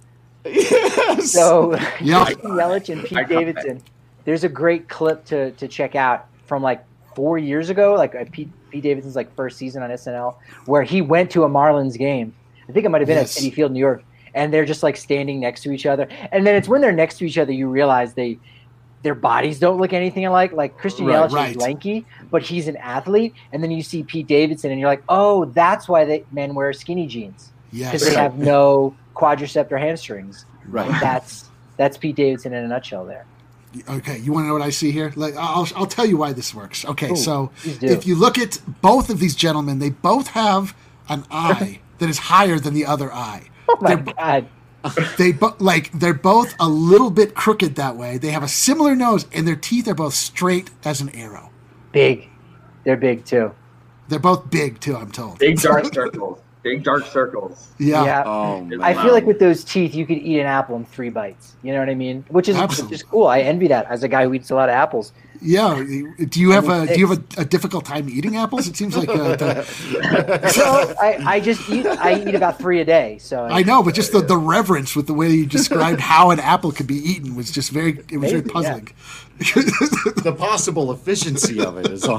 Yes. So Yeah. Christian Yelich and I Pete got Davidson. There's a great clip to to check out from like four years ago, like uh, Pete, Pete Davidson's like first season on S N L, where he went to a Marlins game. I think it might have been Yes. at Citi Field, New York, and they're just like standing next to each other. And then it's when they're next to each other you realize they their bodies don't look anything alike. Like Christian Right, Yelich right. is lanky, but he's an athlete. And then you see Pete Davidson, and you're like, oh, that's why they men wear skinny jeans because Yes. they have no quadricep or hamstrings. Right. And that's that's Pete Davidson in a nutshell there. Okay, you want to know what I see here? Like, I'll I'll tell you why this works. Okay, Ooh, so please do. if you look at both of these gentlemen, they both have an eye that is higher than the other eye. Oh my They're- god. They bo- like they're both a little bit crooked that way. They have a similar nose, and their teeth are both straight as an arrow. Big. They're big too. They're both big too. I'm told. Big dark circles. Big dark circles. Yeah. Yeah. Oh, man. I feel like with those teeth you could eat an apple in three bites. You know what I mean? Which is Absolutely. which is cool. I envy that as a guy who eats a lot of apples. Yeah. Do you have I mean, a do you have a, a difficult time eating apples? It seems like uh, the, So I, I just eat I eat about three a day. So I know, but just the, the reverence with the way you described how an apple could be eaten was just very it was very Maybe, yeah. puzzling. the possible efficiency of it is on.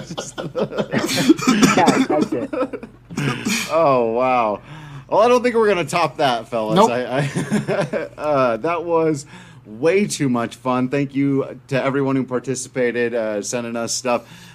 yeah, that's it. Oh wow! Well, I don't think we're gonna top that, fellas. Nope. I, I, uh, that was way too much fun. Thank you to everyone who participated, uh, sending us stuff.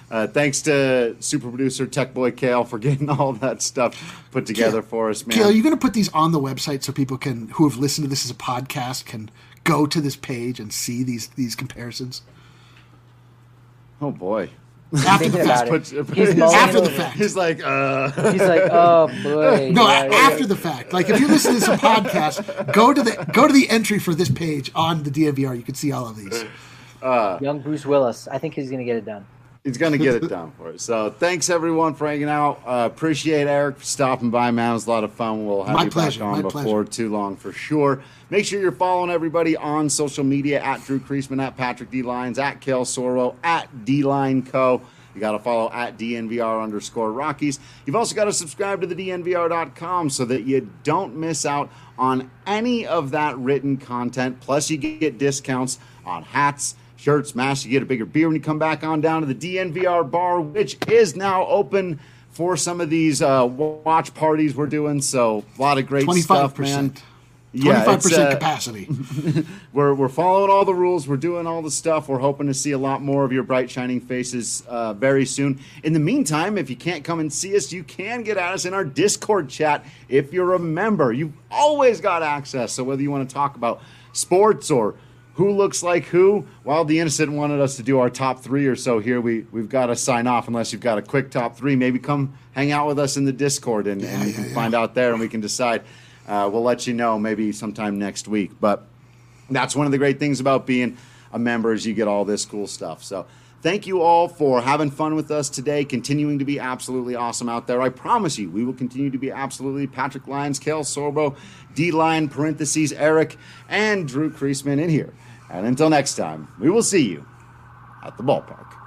Uh, thanks to super producer Tech Boy Kale for getting all that stuff put together Kale, for us, man. Kale, are you going to put these on the website so people can, who have listened to this as a podcast, can go to this page and see these these comparisons? Oh boy. After the Thinking fact. about it. Puts- He's he's- mulling After the over. fact. He's like, uh. He's like, oh boy. No, yeah, a- yeah. after the fact. Like if you listen to this as a podcast, go to the go to the entry for this page on the D N V R. You can see all of these. Young Bruce Willis. I think he's gonna get it done. He's going to get it done for us. So thanks, everyone, for hanging out. Uh, appreciate Eric for stopping by, man. It was a lot of fun. We'll have My you pleasure, back on my before pleasure. too long for sure. Make sure you're following everybody on social media, at Drew Creasman, at Patrick D. Lyons, at Kale Soro, at D Line Co. You got to follow at D N V R underscore Rockies. You've also got to subscribe to the D N V R dot com so that you don't miss out on any of that written content. Plus, you get discounts on hats, shirts, masks. You get a bigger beer when you come back on down to the D N V R bar, which is now open for some of these uh, watch parties we're doing. So a lot of great Twenty-five stuff, man. percent. Yeah, Twenty-five it's, percent uh, capacity. we're we're following all the rules. We're doing all the stuff. We're hoping to see a lot more of your bright shining faces uh, very soon. In the meantime, if you can't come and see us, you can get at us in our Discord chat. If you're a member, you've always got access. So whether you want to talk about sports or who looks like who, while the Innocent wanted us to do our top three or so here, we we've got to sign off unless you've got a quick top three. Maybe come hang out with us in the Discord and, and you yeah, can yeah. find out there and we can decide. Uh, we'll let you know maybe sometime next week. But that's one of the great things about being a member is you get all this cool stuff. So thank you all for having fun with us today, continuing to be absolutely awesome out there. I promise you, we will continue to be absolutely Patrick Lyons, Kale Sorbo, D-Line, parentheses, Eric, and Drew Creasman in here. And until next time, we will see you at the ballpark.